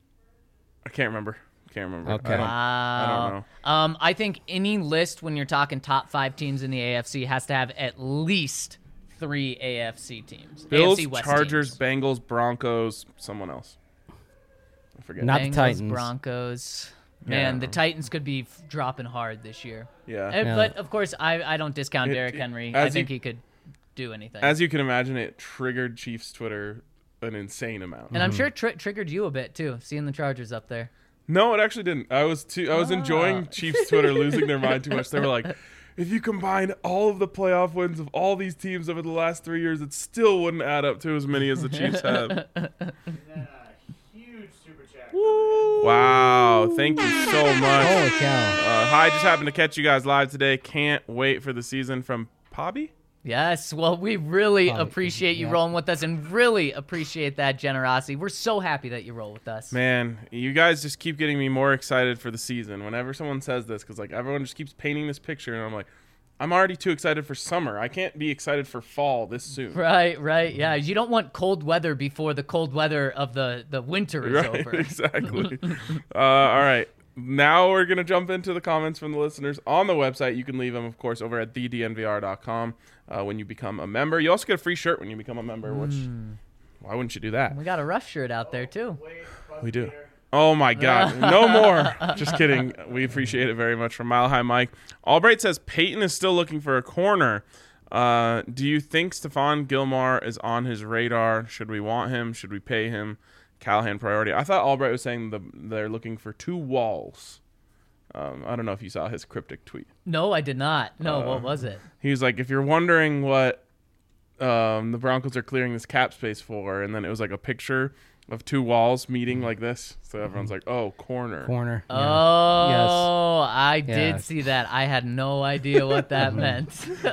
I can't remember. Can't remember. Okay. I don't, Wow. I don't know. Um, I think any list when you're talking top five teams in the A F C has to have at least three A F C teams. Bills, A F C West Chargers, teams. Bengals, Broncos, someone else. I forget. Not the Bengals, Titans. Broncos. Yeah, I Man, don't the know. Titans could be f- dropping hard this year. Yeah. Uh, Yeah. But of course, I, I don't discount It- Derrick it- Henry. as I think you- he could do anything. As you can imagine, it triggered Chiefs Twitter an insane amount. and I'm sure it tri- triggered you a bit too, seeing the Chargers up there. No, it actually didn't. I was too. I was Ah. enjoying Chiefs Twitter losing their mind too much. They were like, if you combine all of the playoff wins of all these teams over the last three years, it still wouldn't add up to as many as the Chiefs have. Wow! Thank you so much. Holy cow. Uh, hi, just happened to catch you guys live today. Can't wait for the season from Pobby. Yes, well, we really Probably, appreciate you yeah. rolling with us and really appreciate that generosity. We're so happy that you roll with us. Man, you guys just keep getting me more excited for the season whenever someone says this, because like everyone just keeps painting this picture, and I'm like, I'm already too excited for summer. I can't be excited for fall this soon. Right, right, yeah. You don't want cold weather before the cold weather of the, the winter is Right, over. exactly. uh, all right. now we're gonna jump into the comments from the listeners on the website. You can leave them, of course, over at the d n v r dot com uh, when you become a member. You also get a free shirt when you become a member. Which Mm. why wouldn't you do that? We got a Russ shirt out there too. We do. Oh my God, no more. Just kidding. We appreciate it very much from Mile High Mike. Albright says Peyton is still looking for a corner. Uh, do you think Stephon Gilmore is on his radar? Should we want him? Should we pay him? Callahan priority. I thought Albright was saying the, they're looking for two walls. Um, I don't know if you saw his cryptic tweet. No, I did not. No, Uh, what was it? He was like, if you're wondering what um, the Broncos are clearing this cap space for, and then it was like a picture of two walls meeting like this. So everyone's like, oh, corner. Corner. Yeah. Oh, I Yeah. did see that. I had no idea what that meant.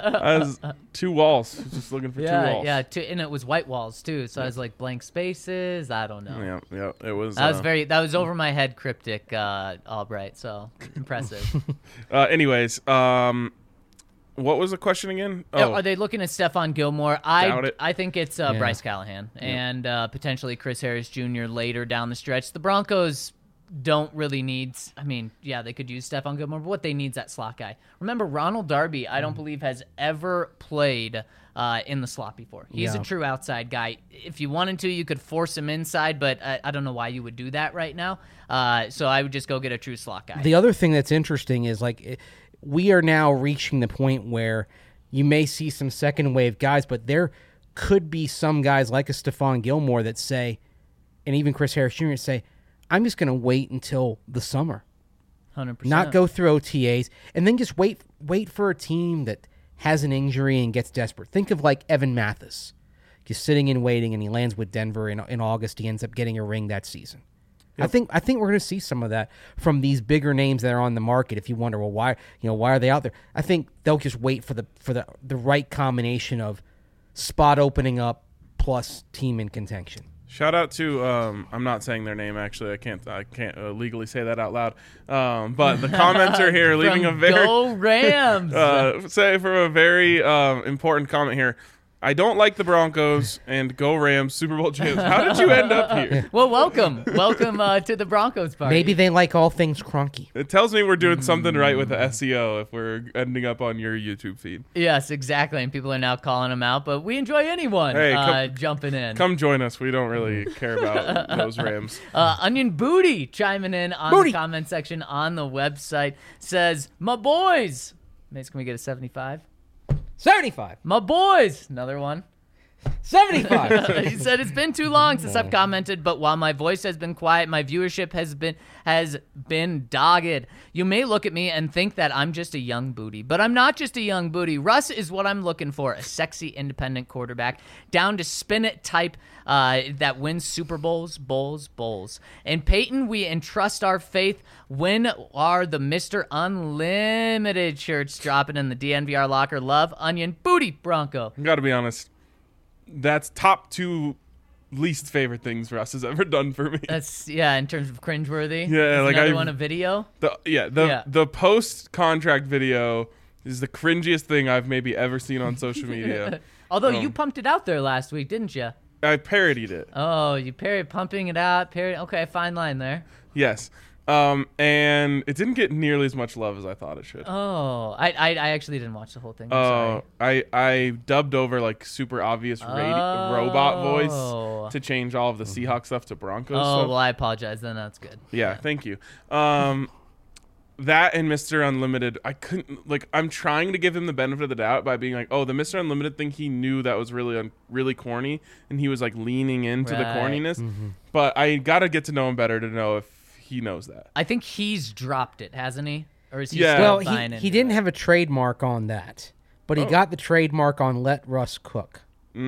As two walls. He's just looking for two yeah, walls. yeah, two, and it was white walls too. So I was like blank spaces. I don't know. Yeah, yeah. It was. That was uh, very. That was over my head, cryptic, uh, Albright. So impressive. Uh, anyways, um, what was the question again? Yeah, Oh, Are they looking at Stephon Gilmore? I Doubt it. I think it's uh, Yeah. Bryce Callahan and uh, potentially Chris Harris Junior later down the stretch. The Broncos don't really need. I mean, yeah, they could use Stephon Gilmore, but what they need is that slot guy. Remember, Ronald Darby, I don't Mm. believe has ever played uh, in the slot before. He's Yeah. a true outside guy. If you wanted to, you could force him inside, but I, I don't know why you would do that right now. Uh, so I would just go get a true slot guy. The other thing that's interesting is like it- we are now reaching the point where you may see some second wave guys, but there could be some guys like a Stephon Gilmore that say, and even Chris Harris Junior say, I'm just going to wait until the summer, one hundred percent. not go through O T As, and then just wait wait for a team that has an injury and gets desperate. Think of like Evan Mathis, just sitting and waiting, and he lands with Denver in, in August. He ends up getting a ring that season. I think I think we're going to see some of that from these bigger names that are on the market. If you wonder, well, why you know why are they out there? I think they'll just wait for the for the the right combination of spot opening up plus team in contention. shout out to um, I'm not saying their name actually. I can't I can't uh, legally say that out loud. Um, but the commenter here leaving From a very Go Rams. uh, say from a very um, important comment here. I don't like the Broncos and go Rams Super Bowl champs. How did you end up here? Well, welcome, welcome uh, to the Broncos party. Maybe they like all things Cronky. It tells me we're doing something right with the S E O if we're ending up on your YouTube feed. Yes, exactly. And people are now calling them out, but we enjoy anyone Hey, uh, come- jumping in. Come join us. We don't really care about those Rams. Uh, Onion Booty chiming in on Booty. the comment section on the website says, "My boys." Mace, can we get a seventy-five? seventy-five. My boys. Another one. seventy-five. He said it's been too long since I've commented, but while my voice has been quiet, my viewership has been has been dogged. You may look at me and think that I'm just a young booty, but I'm not just a young booty. Russ is what I'm looking for, a sexy independent quarterback, down to spin it type uh, that wins Super Bowls, bowls, bowls. And Peyton, we entrust our faith. When are the Mister Unlimited shirts dropping in the D N V R locker? Love, Onion Booty, Bronco. I gotta be honest. That's top two least favorite things Russ has ever done for me. That's yeah, in terms of cringeworthy. Yeah, Is like another I- one a video. The yeah, the Yeah. the post contract video is the cringiest thing I've maybe ever seen on social media. Although you Um, pumped it out there last week, didn't you? I parodied it. Oh, you parried pumping it out. Parried. Okay, fine line there. Yes. Um, and it didn't get nearly as much love as I thought it should. Oh, I I, I actually didn't watch the whole thing. I'm Oh, sorry. I I dubbed over like super obvious radi- robot Oh. voice to change all of the Seahawks stuff to Broncos. Oh, stuff. well, I apologize. Then that's good. Yeah, thank you. Um, that and Mister Unlimited, I couldn't like. I'm trying to give him the benefit of the doubt by being like, oh, the Mister Unlimited thing. He knew that was really un- really corny, and he was like leaning into the Right. corniness. But I gotta get to know him better to know if he knows that. I think he's dropped it, hasn't he? Or is he Yeah. still Well, buying he, into he didn't it? have a trademark on that, but he Oh. got the trademark on Let Russ Cook.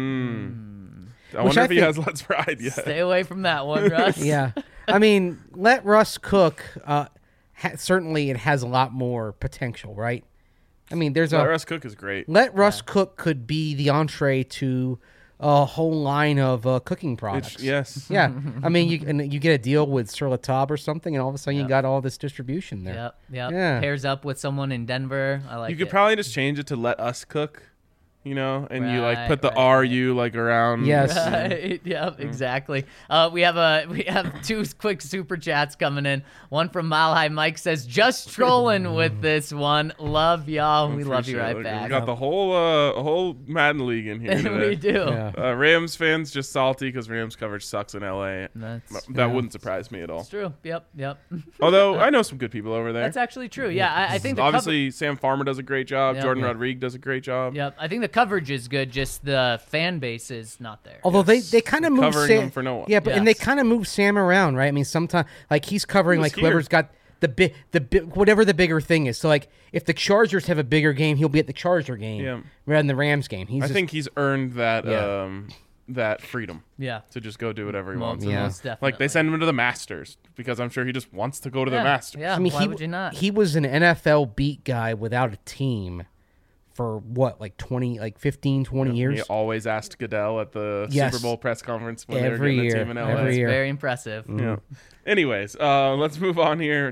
Mm. I Which wonder I if he think- has Let's Ride yet. Stay away from that one, Russ. Yeah. I mean, Let Russ Cook, uh, ha- certainly it has a lot more potential, right? I mean, there's Let a Russ Cook is great. Let Russ Cook could be the entree to a whole line of uh, cooking products. It's, yes. Yeah, I mean, you and you get a deal with Sur La Table or something, and all of a sudden you got all this distribution there. Yep. Yep. Yeah. Pairs up with someone in Denver. I like You could it. probably just change it to Let Us Cook. you know, and you like Right, put the right, R right. U like around. Yes. Right. Yep, exactly. Uh, we have a we have two quick super chats coming in. One from Mile High Mike says, "Just trolling with this one. Love y'all. We love you Appreciate it. right Look, back." We got the whole uh whole Madden League in here today. we do. Yeah. Uh, Rams fans just salty because Rams coverage sucks in L A. That's, That Yeah. wouldn't surprise me at all. that's true. Yep. Yep. Although I know some good people over there. That's actually true. Yeah, I, I think the Obviously, Sam Farmer does a great job. Yeah. Jordan Yeah. Rodriguez does a great job. Cover- yep. I think the coverage is good. Just the fan base is not there. Although they, they kind of move Covering Sam, them for no one. Yeah, but and they Yes. kind of move Sam around, right? I mean, sometimes like he's covering He was like whoever's here. got the big the bi- whatever the bigger thing is. So like if the Chargers have a bigger game, he'll be at the Charger game Yeah. rather than the Rams game. He's I just, think he's earned that Yeah. um that freedom Yeah. to just go do whatever he Well, wants. Yeah. most definitely. Like they send him to the Masters because I'm sure he just wants to go to yeah. the Masters. Yeah. I mean, Why he would you not? he was an N F L beat guy without a team for what like twenty like fifteen, twenty years. He always asked Goodell at the Yes. Super Bowl press conference when they were Every getting year. the team in L A. Every That's year. very impressive. Yeah. Anyways, uh, let's move on here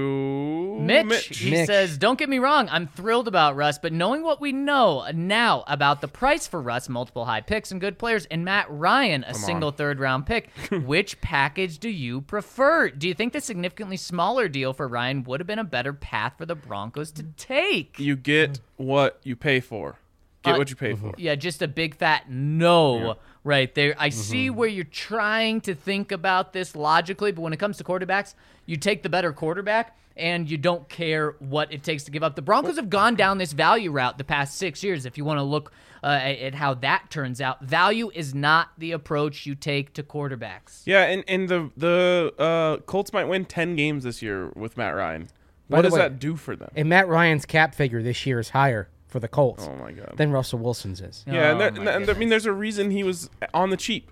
to Mitch, he Mitch. says, "Don't get me wrong, I'm thrilled about Russ, but knowing what we know now about the price for Russ, multiple high picks and good players, and Matt Ryan, a single third round pick, which package do you prefer? Do you think the significantly smaller deal for Ryan would have been a better path for the Broncos to take?" You get what you pay for. Get Uh, what you pay for. Yeah, just a big fat no right there. I see where you're trying to think about this logically, but when it comes to quarterbacks, you take the better quarterback and you don't care what it takes to give up. The Broncos have gone down this value route the past six years. If you want to look uh, at at how that turns out, value is not the approach you take to quarterbacks. Yeah, and, and the the uh, Colts might win ten games this year with Matt Ryan. By What the does way- that do for them? And Matt Ryan's cap figure this year is higher for the Colts Oh my god. than Russell Wilson's is. Yeah, and, Oh, there, my and there- I goodness. mean, there's a reason he was on the cheap.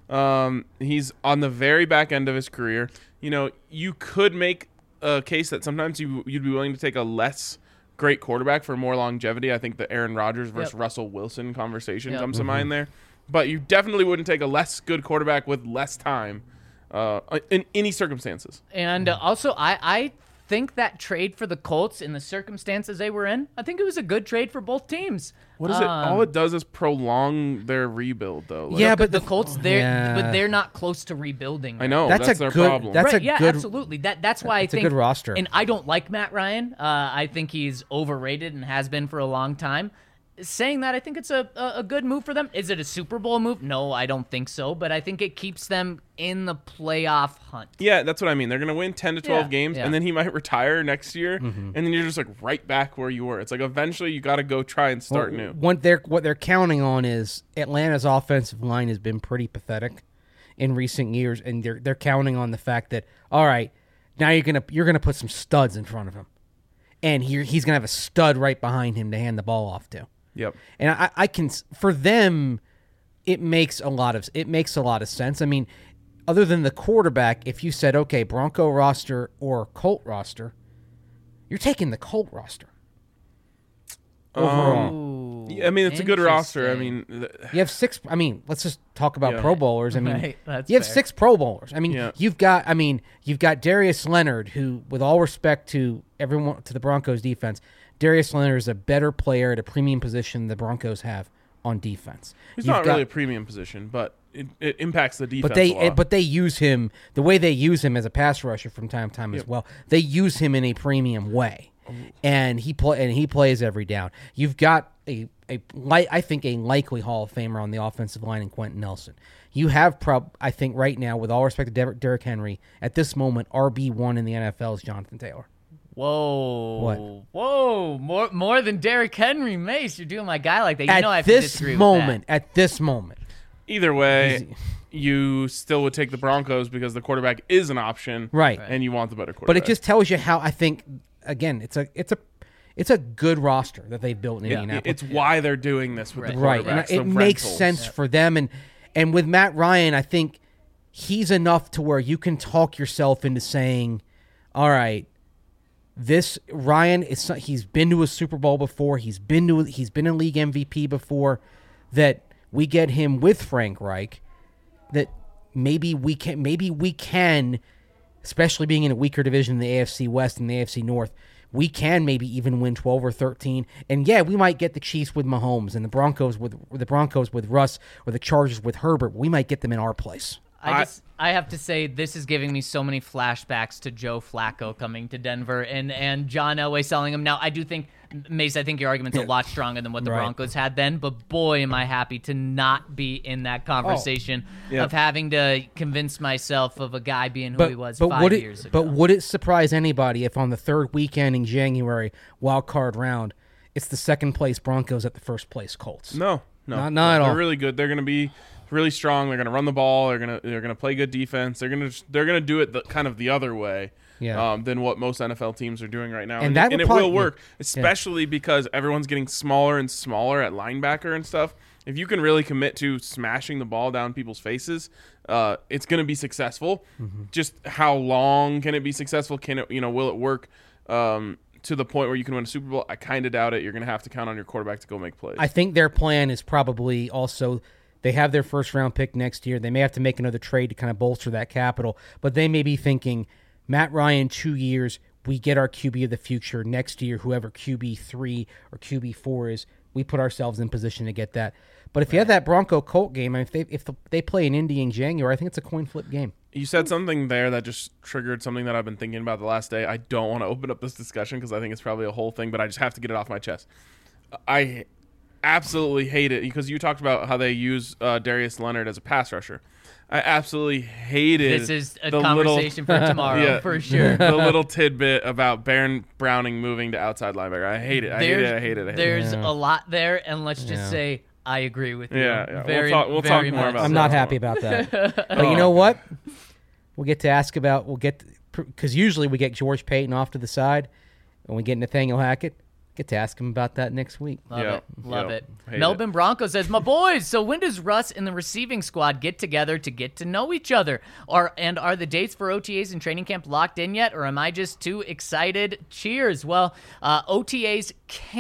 Um, he's on the very back end of his career. You know, you could make a case that sometimes you you'd be willing to take a less great quarterback for more longevity. I think the Aaron Rodgers versus Yep. Russell Wilson conversation Yep. comes to mind there. But you definitely wouldn't take a less good quarterback with less time uh, in any circumstances. And uh, also, I, I think that trade for the Colts in the circumstances they were in, I think it was a good trade for both teams. What is it? Um, All it does is prolong their rebuild, though. Like, Yeah, But but the Colts, they're yeah. but they're not close to rebuilding. I know That's that's, a their good- problem. that's- right, a yeah, good- absolutely. That that's why It's I a think good roster. And I don't like Matt Ryan. Uh, I think he's overrated and has been for a long time. Saying that, I think it's a, a a good move for them. Is it a Super Bowl move? No, I don't think so. But I think it keeps them in the playoff hunt. Yeah, that's what I mean. They're going to win ten to twelve Yeah, games, yeah. and then he might retire next year, and then you're just like right back where you were. It's like eventually you got to go try and start new. What they're what they're counting on is Atlanta's offensive line has been pretty pathetic in recent years, and they're they're counting on the fact that all right, now you're gonna you're gonna put some studs in front of him, and he, he's gonna have a stud right behind him to hand the ball off to. Yep. And I, I can for them, it makes a lot of it makes a lot of sense. I mean, other than the quarterback, if you said okay, Bronco roster or Colt roster, you're taking the Colt roster. Overall, Ooh, Yeah, I mean, it's a good roster. I interesting. mean, th- you have six. I mean, let's just talk about Yeah. Pro Bowlers. I mean, Right, that's you have fair. six Pro Bowlers. I mean, Yeah. you've got. I mean, you've got Darius Leonard, who, with all respect to everyone to the Broncos defense, Darius Leonard is a better player at a premium position the Broncos have on defense. he's You've not got- really a premium position, but it, it impacts the defense. But they, a lot. but they use him the way they use him as a pass rusher from time to time as well. They use him in a premium way, and he play and he plays every down. You've got a a li- I think a likely Hall of Famer on the offensive line in Quentin Nelson. You have prob I think right now, with all respect to Der- Derrick Henry, at this moment R B one in the N F L is Jonathan Taylor. Whoa. What? Whoa. More more than Derrick Henry, Mace. You're doing my guy like that. You at know I have to this disagree moment, with at this moment, Either way, you still would take the Broncos because the quarterback is an option, right? and you want the better quarterback. But it just tells you how I think. Again, it's a it's a it's a good roster that they've built in yeah, Indianapolis. it's why they're doing this with the Right, quarterbacks. and the it makes rentals. sense for them. And and with Matt Ryan, I think he's enough to where you can talk yourself into saying, "All right, this Ryan is he's been to a Super Bowl before. He's been to he's been a league M V P before. That we get him with Frank Reich. That maybe we can maybe we can, especially being in a weaker division in the A F C West and the A F C North." we can maybe even win twelve or thirteen. And yeah, we might get the Chiefs with Mahomes and the Broncos with the Broncos with Russ or the Chargers with Herbert. We might get them in our place. I I- just I have to say this is giving me so many flashbacks to Joe Flacco coming to Denver and, and John Elway selling him. Now I do think Mace, I think your argument's a lot stronger than what the Right. Broncos had then, but boy am I happy to not be in that conversation Yeah. of having to convince myself of a guy being who But, he was but five would it, years ago. But would it surprise anybody if on the third weekend in January, wild card round, it's the second place Broncos at the first place Colts? No, no, Not- not at They're all. really good. They're going to be really strong. They're going to run the ball. They're going to they're going to play good defense. They're going to they're going to do it the, kind of the other way. Yeah. Um, than what most N F L teams are doing right now, And and, that and would it probably- will work, yeah. especially because everyone's getting smaller and smaller at linebacker and stuff. If you can really commit to smashing the ball down people's faces, uh, it's going to be successful. Mm-hmm. Just how long can it be successful? Can it, you know, will it work um, to the point where you can win a Super Bowl? I kind of doubt it. You're going to have to count on your quarterback to go make plays. I think their plan is probably also they have their first round pick next year. They may have to make another trade to kind of bolster that capital, but they may be thinking Matt Ryan, two years, we get our Q B of the future. Next year, whoever Q B three or Q B four is, we put ourselves in position to get that. But if you have that Bronco Colt game, I mean, if they if the, they play in Indy in January, I think it's a coin flip game. You said something there that just triggered something that I've been thinking about the last day. I don't want to open up this discussion because I think it's probably a whole thing, but I just have to get it off my chest. I absolutely hate it because you talked about how they use uh, Darius Leonard as a pass rusher. I absolutely hated this is a the conversation little, for tomorrow, yeah, for sure. the little tidbit about Baron Browning moving to outside linebacker. I hate it. I hate it. I hate it. I hate it. There's Yeah. a lot there, and let's just Yeah. say I agree with you. Yeah, yeah. Very, We'll talk- we'll very talk more much about I'm so. not happy about that. But you know what? We'll get to ask about, we'll get, because usually we get George Payton off to the side, and we get Nathaniel Hackett. Get to ask him about that next week. Love Yeah, it. Love yeah. it. Hate Melbourne Bronco says, my boys, so when does Russ and the receiving squad get together to get to know each other? Are And are the dates for O T As and training camp locked in yet, or am I just too excited? Cheers. Well, uh, O T As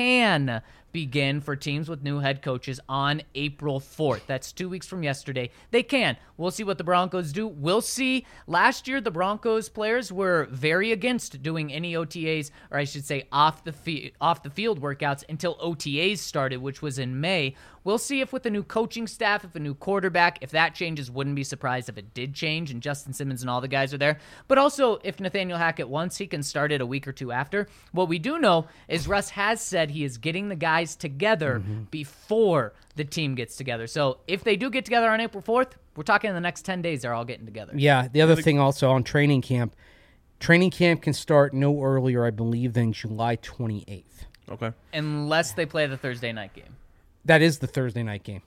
can begin for teams with new head coaches on April fourth. That's two weeks from yesterday. They can. We'll see what the Broncos do. We'll see. Last year, the Broncos players were very against doing any O T As, or I should say off the, fi- off the field workouts until O T As started, which was in May. We'll see if with a new coaching staff, if a new quarterback, if that changes, wouldn't be surprised if it did change and Justin Simmons and all the guys are there. But also, if Nathaniel Hackett wants, he can start it a week or two after. What we do know is Russ has said he is getting the guys together before the team gets together. So if they do get together on April fourth, we're talking in the next ten days, they're all getting together. Yeah, the other thing also on training camp, training camp can start no earlier, I believe, than July twenty-eighth. Okay. Unless they play the Thursday night game. That is the Thursday night game.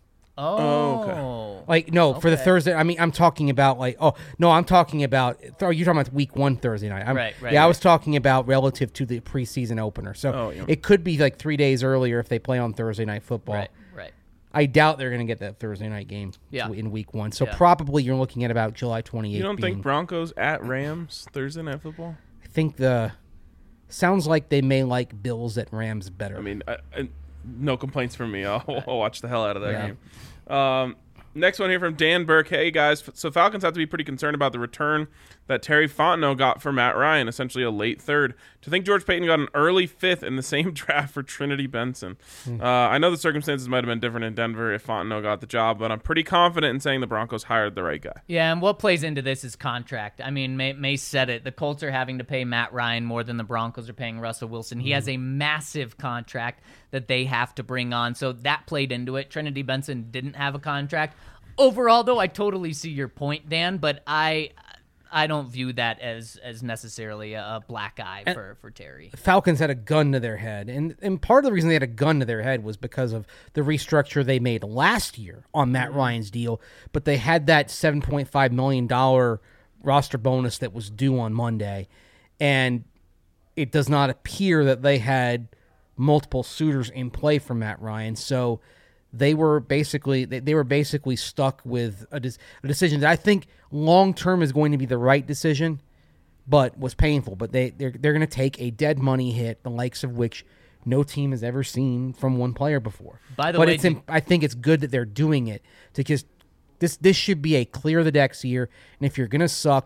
Oh. okay. Like, no, for the Okay. Thursday, I mean, I'm talking about, like, oh, no, I'm talking about, oh, you're talking about week one Thursday night. I'm, Right, right, Yeah, I right. was talking about relative to the preseason opener. So Oh, yeah. it could be like three days earlier if they play on Thursday night football. Right, right. I doubt they're going to get that Thursday night game Yeah. in week one. So Yeah. probably you're looking at about July twenty-eighth. You don't being, think Broncos at Rams Thursday night football? I think the, sounds like they may like Bills at Rams better. I mean, I, I, no complaints from me. I'll, I'll watch the hell out of that Yeah. game. Um, next one here from Dan Burke. Hey, guys. So Falcons have to be pretty concerned about the return that Terry Fontenot got for Matt Ryan, essentially a late third. To think George Payton got an early fifth in the same draft for Trinity Benson. Uh, I know the circumstances might have been different in Denver if Fontenot got the job, but I'm pretty confident in saying the Broncos hired the right guy. Yeah, and what plays into this is contract. I mean, May, May said it. The Colts are having to pay Matt Ryan more than the Broncos are paying Russell Wilson. He has a massive contract that they have to bring on, so that played into it. Trinity Benson didn't have a contract. Overall, though, I totally see your point, Dan, but I I don't view that as as necessarily a, a black eye for, for Terry. Falcons had a gun to their head, and and part of the reason they had a gun to their head was because of the restructure they made last year on Matt Ryan's deal. But they had that seven point five million dollar roster bonus that was due on Monday, and it does not appear that they had multiple suitors in play for Matt Ryan. So they were basically they, they were basically stuck with a, des- a decision that I think long term is going to be the right decision, but was painful. But they they're they're going to take a dead money hit, the likes of which no team has ever seen from one player before. By the but way, it's do- in, I think it's good that they're doing it to just this this should be a clear the decks year. And if you're going to suck,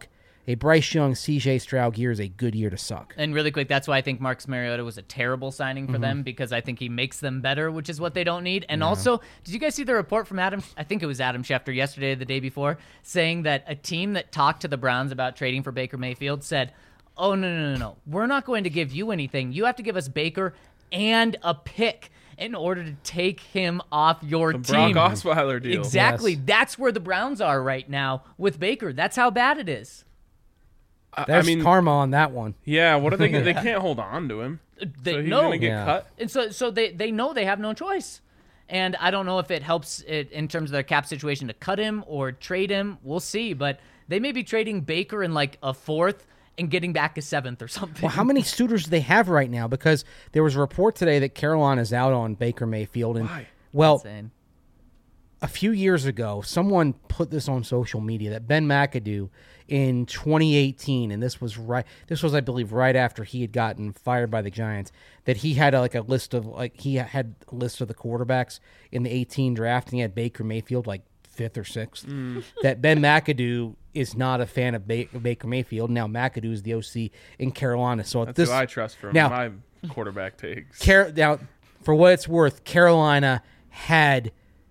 a Bryce Young, C J Stroud year is a good year to suck. And really quick, that's why I think Marcus Mariota was a terrible signing for mm-hmm. them, because I think he makes them better, which is what they don't need. And yeah. also, did you guys see the report from Adam? I think it was Adam Schefter yesterday or the day before, saying that a team that talked to the Browns about trading for Baker Mayfield said, oh, no, no, no, no. We're not going to give you anything. You have to give us Baker and a pick in order to take him off your the team. Brock Osweiler deal. Exactly. Yes. That's where the Browns are right now with Baker. That's how bad it is. There's I mean, karma on that one. Yeah, what are they? They can't hold on to him. They so he's know. gonna get Yeah. cut. And so, so they, they know they have no choice. And I don't know if it helps it in terms of their cap situation to cut him or trade him. We'll see. But they may be trading Baker in like a fourth and getting back a seventh or something. Well, how many suitors do they have right now? Because there was a report today that Carolina's out on Baker Mayfield. And, Why? well, Insane. a few years ago, someone put this on social media that Ben McAdoo in twenty eighteen, and this was right. This was, I believe, right after he had gotten fired by the Giants. That he had a, like a list of like he had a list of the quarterbacks in the eighteen draft, and he had Baker Mayfield like fifth or sixth. Mm. That Ben McAdoo is not a fan of ba- Baker Mayfield. Now McAdoo is the O C in Carolina, so That's this who I trust for now, my quarterback takes. Car- now, for what it's worth, Carolina had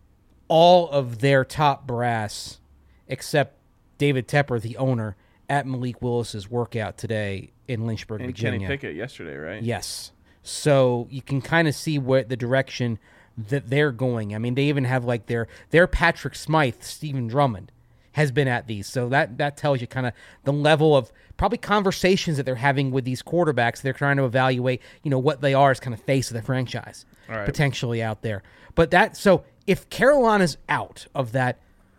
all of their top brass, except David Tepper, the owner, at Malik Willis's workout today in Lynchburg, and Virginia. Kenny Pickett yesterday, right? Yes. So you can kind of see what the direction that they're going. I mean, they even have like their their Patrick Smythe, Stephen Drummond, has been at these. So that that tells you kind of the level of probably conversations that they're having with these quarterbacks. They're trying to evaluate, you know, what they are as kind of face of the franchise, All right. potentially out there. But that so if Carolina's out of that,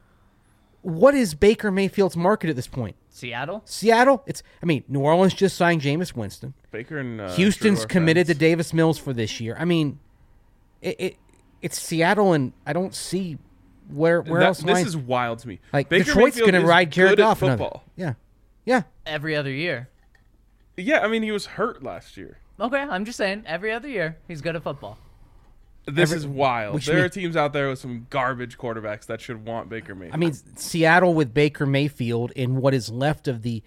what is Baker Mayfield's market at this point? Seattle? Seattle? It's I mean, New Orleans just signed Jameis Winston. Baker and uh, Houston's Drew are committed friends. to Davis Mills for this year. I mean, it, it it's Seattle, and I don't see where where That- else. This lines- is wild to me. like Baker Detroit's Mayfield going to is ride Jared good at Goff another. football. Yeah, yeah. Every other year. Yeah, I mean he was hurt last year. Okay, I'm just saying, every other year, he's good at football. This Every- is wild. which There mean- are teams out there with some garbage quarterbacks that should want Baker Mayfield. I mean, Seattle with Baker Mayfield in what is left of the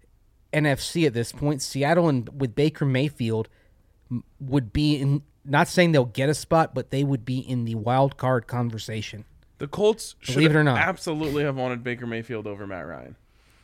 N F C at this point. Seattle and with Baker Mayfield m- would be in. Not saying they'll get a spot, but they would be in the wild card conversation. the Colts should Believe it or not. absolutely have wanted Baker Mayfield over Matt Ryan.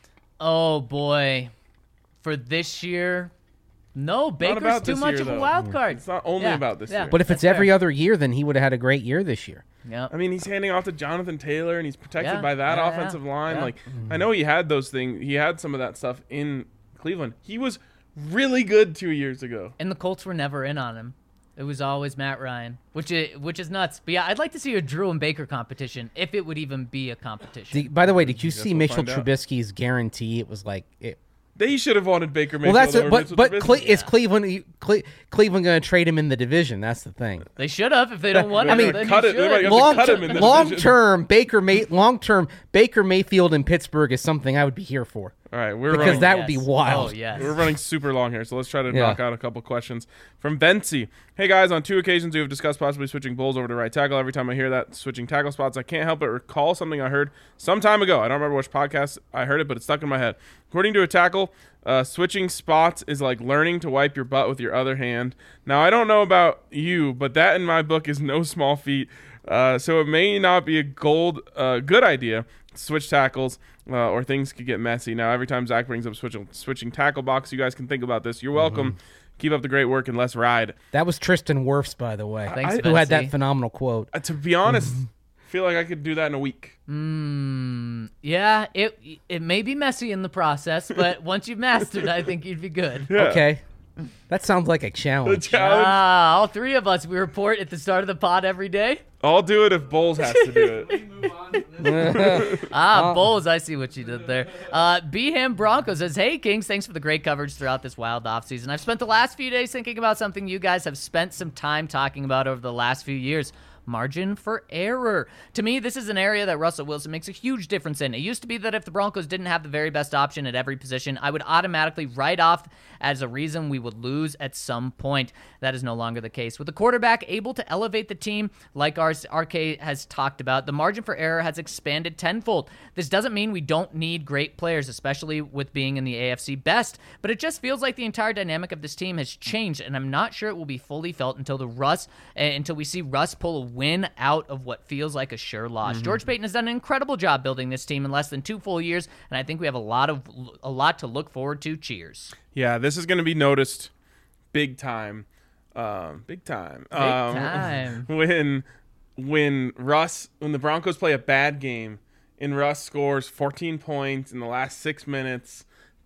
Oh, boy. For this year, no, Baker's about too this much year, of a though. wild card. It's not only Yeah, about this yeah. year. But if That's it's every fair. other year, then he would have had a great year this year. Yep. I mean, he's handing off to Jonathan Taylor, and he's protected Yeah, by that yeah, offensive yeah, line. yeah. Like, I know he had those things. He had some of that stuff in Cleveland. He was really good two years ago. And the Colts were never in on him. It was always Matt Ryan, which is, which is nuts. But yeah, I'd like to see a Drew and Baker competition, if it would even be a competition. The, by the way, did you see we'll Mitchell find out. Trubisky's guarantee? It was like it. They should have wanted Baker Mayfield Well, that's over it, but Mitchell but Trubisky. Cle- is Cleveland Cle- Cleveland going to trade him in the division? That's the thing. They should have if they don't want I him. mean, then cut you it. They might should. have to Long, cut him in the long division. term, Baker May long term Baker Mayfield in Pittsburgh is something I would be here for All right, we're because running. that would be Yes. wild. Oh, yes. We're running super long here, so let's try to Yeah. knock out a couple questions. From Bency. Hey, guys, on two occasions we have discussed possibly switching Bulls over to right tackle. Every time I hear that, switching tackle spots, I can't help but recall something I heard some time ago. I don't remember which podcast I heard it, but it's stuck in my head. According to a tackle, uh, switching spots is like learning to wipe your butt with your other hand. Now, I don't know about you, but that in my book is no small feat. Uh, so it may not be a gold uh, good idea to switch tackles, uh, or things could get messy. Now, every time Zach brings up switching, switching tackle box, you guys can think about this. You're welcome. Mm-hmm. Keep up the great work and let's ride. That was Tristan Wirfs, by the way, Thanks, who had Betsy. that phenomenal quote. Uh, to be honest, I feel like I could do that in a week. Mm, yeah, it it may be messy in the process, but once you've mastered it, I think you'd be good. Yeah. Okay, that sounds like a The challenge. challenge. Ah, all three of us, we report at the start of the pod every day. I'll do it if Bowles has to do it. Ah, Bulls, I see what you did there. Uh, B-Ham Bronco says, hey, Kings, thanks for the great coverage throughout this wild offseason. I've spent the last few days thinking about something you guys have spent some time talking about over the last few years. margin for error. To me, this is an area that Russell Wilson makes a huge difference in. It used to be that if the Broncos didn't have the very best option at every position, I would automatically write off as a reason we would lose at some point. That is no longer the case. With the quarterback able to elevate the team, like our R K has talked about, the margin for error has expanded tenfold. This doesn't mean we don't need great players, especially with being in the A F C best, but it just feels like the entire dynamic of this team has changed, and I'm not sure it will be fully felt until the Russ, uh, until we see Russ pull a win out of what feels like a sure loss. Mm-hmm. George Paton has done an incredible job building this team in less than two full years, and I think we have a lot of a lot to look forward to. Cheers. Yeah, this is going to be noticed big time, um, big time, big um, time. when when Russ when the Broncos play a bad game and Russ scores fourteen points in the last six minutes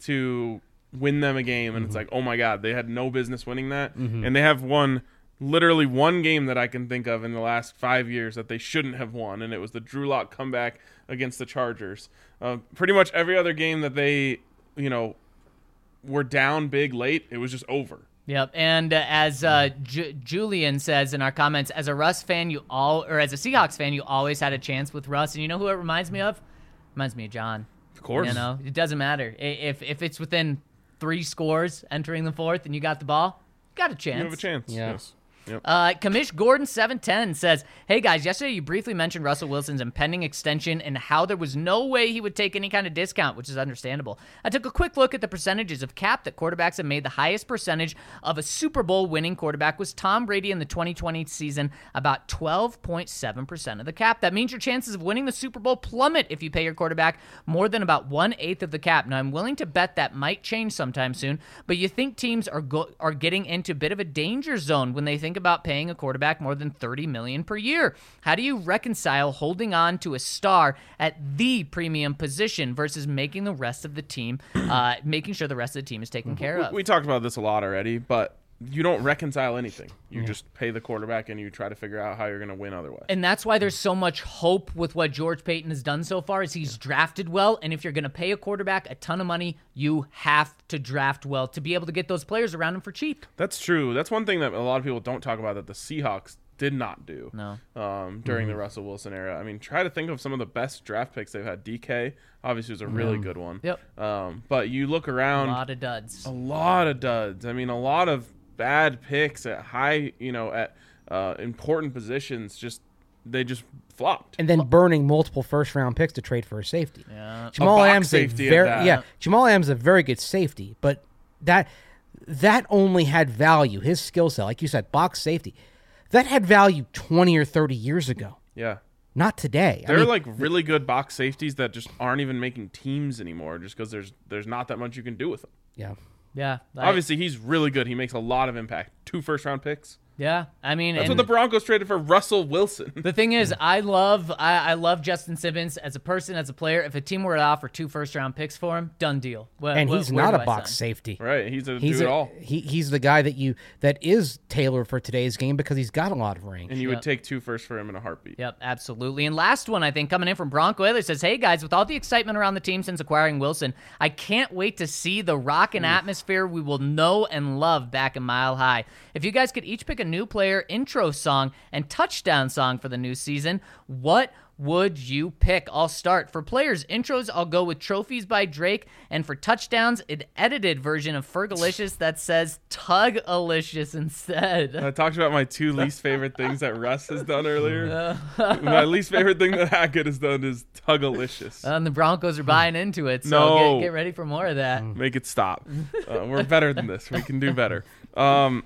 to win them a game, and mm-hmm. it's like, oh my God, they had no business winning that, mm-hmm. and they have won literally one game that I can think of in the last five years that they shouldn't have won, and it was the Drew Lock comeback against the Chargers. Uh, pretty much every other game that they, you know, were down big late, it was just over. Yep, and uh, as uh, J- Julian says in our comments, as a Russ fan, you all, or as a Seahawks fan, you always had a chance with Russ, and you know who it reminds me of? Reminds me of John. Of course. You know, it doesn't matter if if it's within three scores entering the fourth and you got the ball, you got a chance. You have a chance. Yeah. Yes. Yep. Uh, Kamish Gordon seven ten says, hey guys, yesterday you briefly mentioned Russell Wilson's impending extension and how there was no way he would take any kind of discount, which is understandable. I took a quick look at the percentages of cap that quarterbacks have made. The highest percentage of a Super Bowl winning quarterback was Tom Brady in the twenty twenty season, about twelve point seven percent of the cap. That means your chances of winning the Super Bowl plummet if you pay your quarterback more than about one-eighth of the cap. Now, I'm willing to bet that might change sometime soon, but you think teams are go- are getting into a bit of a danger zone when they think about paying a quarterback more than thirty million dollars per year. How do you reconcile holding on to a star at the premium position versus making the rest of the team, uh, making sure the rest of the team is taken care of? We, we talked about this a lot already, but you don't reconcile anything. You yeah. just pay the quarterback and you try to figure out how you're going to win otherwise. And that's why there's so much hope with what George Paton has done so far is he's drafted well. And if you're going to pay a quarterback a ton of money, you have to draft well to be able to get those players around him for cheap. That's true. That's one thing that a lot of people don't talk about that the Seahawks did not do no. um, during mm-hmm. the Russell Wilson era. I mean, try to think of some of the best draft picks they've had. D K obviously was a really mm. good one. Yep. Um, but you look around. A lot of duds. A lot of duds. I mean, a lot of bad picks at high, you know, at uh, important positions. Just they just flopped. And then burning multiple first round picks to trade for a safety. Yeah. Jamal A box Adams safety a at very that. yeah. Jamal Adams is a very good safety, but that that only had value. His skill set, like you said, box safety, that had value twenty or thirty years ago. Yeah. Not today. There I are mean, like really good box safeties that just aren't even making teams anymore, just because there's there's not that much you can do with them. yeah. Yeah. I- Obviously, he's really good. He makes a lot of impact. Two first round picks. Yeah. I mean, That's and what the Broncos traded for Russell Wilson. the thing is, I love I, I love Justin Simmons as a person, as a player. If a team were to offer two first round picks for him, done deal. Where, And where- he's where not do a I box sign? Right. safety. He's a He's do it a, all. he he's the guy that you that is tailored for today's game because he's got a lot of range. And you Yep. would take two first for him in a heartbeat. Yep, absolutely. And last one, I think, coming in from Bronco Oilers says, hey, guys, with all the excitement around the team since acquiring Wilson, I can't wait to see the rockin' atmosphere we will know and love back in Mile High. If you guys could each pick a new player intro song and touchdown song for the new season, what would you pick? I'll start. For players' intros, I'll go with Trophies by Drake. And for touchdowns, an edited version of Fergalicious that says Tug-alicious instead. I talked about my two least favorite things that Russ has done earlier. My least favorite thing that Hackett has done is Tug-alicious. And the Broncos are buying into it, so No. get, get ready for more of that. Make it stop. Uh, we're better than this. We can do better. Um,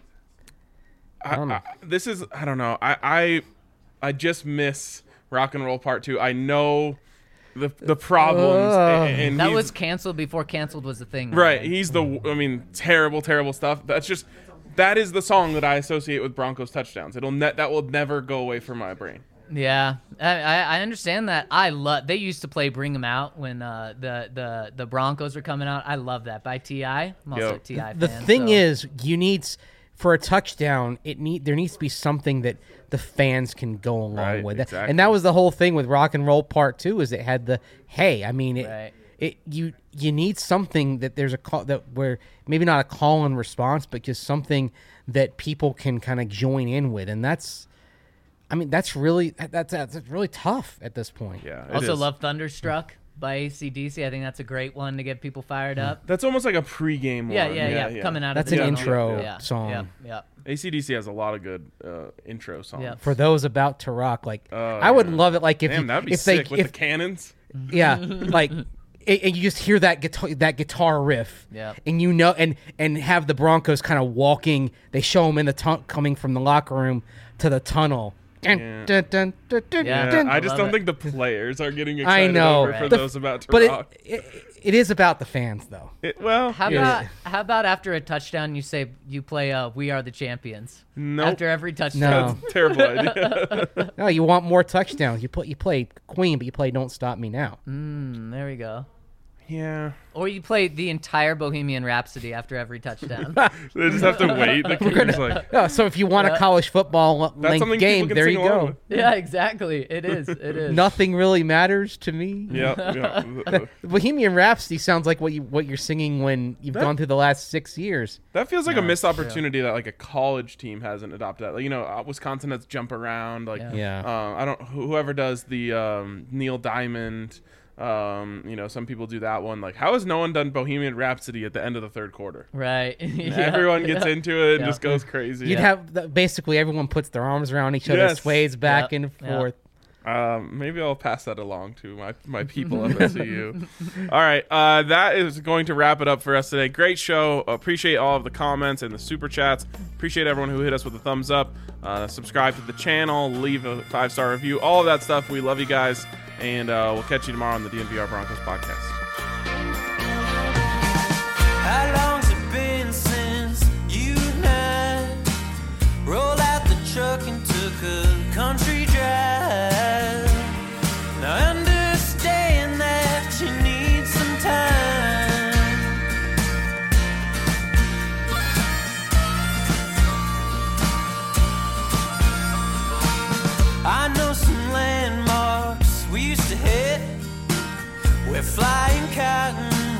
I, don't know. I, this is I don't know. I, I I just miss Rock and Roll Part Two. I know the the problems. Ugh. and, and That he's- was canceled before canceled was a thing. right. man. He's the I mean terrible, terrible stuff. That's just that is the song that I associate with Broncos touchdowns. It'll ne- that will never go away from my brain. Yeah, I, I I understand that. I love. They used to play "Bring 'Em Out" when uh, the the the Broncos were coming out. I love that by T I. I'm also Yo. a T I The fan. thing so. is, you need s- for a touchdown. It need there needs to be something that the fans can go along Right, with, exactly. and that was the whole thing with Rock and Roll Part Two. Is it had the hey? I mean, it, Right. it you you need something that there's a call that where maybe not a call and response, but just something that people can kind of join in with, and that's. I mean, that's really that's that's really tough at this point. Yeah. it Also is. love Thunderstruck by A C D C. I think that's a great one to get people fired up. That's almost like a pregame Yeah, one. yeah, yeah, Coming out That's of the an tunnel. intro yeah. song. Yeah, yeah. A C D C has a lot of good uh, intro songs. Yeah. For those about to rock, like Oh, I would yeah. love it. Like if Damn, you, that'd be if sick they with if the cannons. yeah, like and and you just hear that guitar that guitar riff, Yeah. and you know, and and have the Broncos kind of walking. They show them in the tun- coming from the locker room to the tunnel. Dun, Yeah. dun, dun, dun, dun, Yeah. dun. Yeah, I just love don't it. think the players are getting excited I know. over for The- those about to but rock. it, it it is about the fans though. It, well, How yeah. about how about after a touchdown you say you play uh, "We Are the Champions"? Nope. After every touchdown. No. That's a terrible idea. No, you want more touchdowns. You play you play Queen, but you play Don't Stop Me Now. Mm, there we go. yeah. Or you play the entire Bohemian Rhapsody after every touchdown. They just have to wait. The kicker's like, Oh, so if you want a college football that's length something game, people can there sing you along go. with. Yeah, exactly. It is. It is. Nothing really matters to me. Yeah, yeah. Bohemian Rhapsody sounds like what you what you're singing when you've That- gone through the last six years. That feels like No, a missed it's true. opportunity that like a college team hasn't adopted that. Like, you know, uh, Wisconsin has Jump Around. Like, Yeah. Yeah. uh, I don't. wh- Whoever does the um, Neil Diamond. Um, you know, some people do that one. Like, how has no one done Bohemian Rhapsody at the end of the third quarter? Right. Yeah, Everyone gets yeah. into it and Yeah. just goes crazy. You'd have the, basically everyone puts their arms around each other, Yes. sways back Yep. and Yep. forth. Um, maybe I'll pass that along to my, my people at S C U. All right, uh, that is going to wrap it up for us today. Great show. Appreciate all of the comments and the super chats. Appreciate everyone who hit us with a thumbs up. Uh, subscribe to the channel. Leave a five star review. All of that stuff. We love you guys, and uh, we'll catch you tomorrow on the D N V R Broncos podcast. How long's it been since you and I rolled out the truck and took a country drive? Now I understand that you need some time. I know some landmarks we used to hit where flying cotton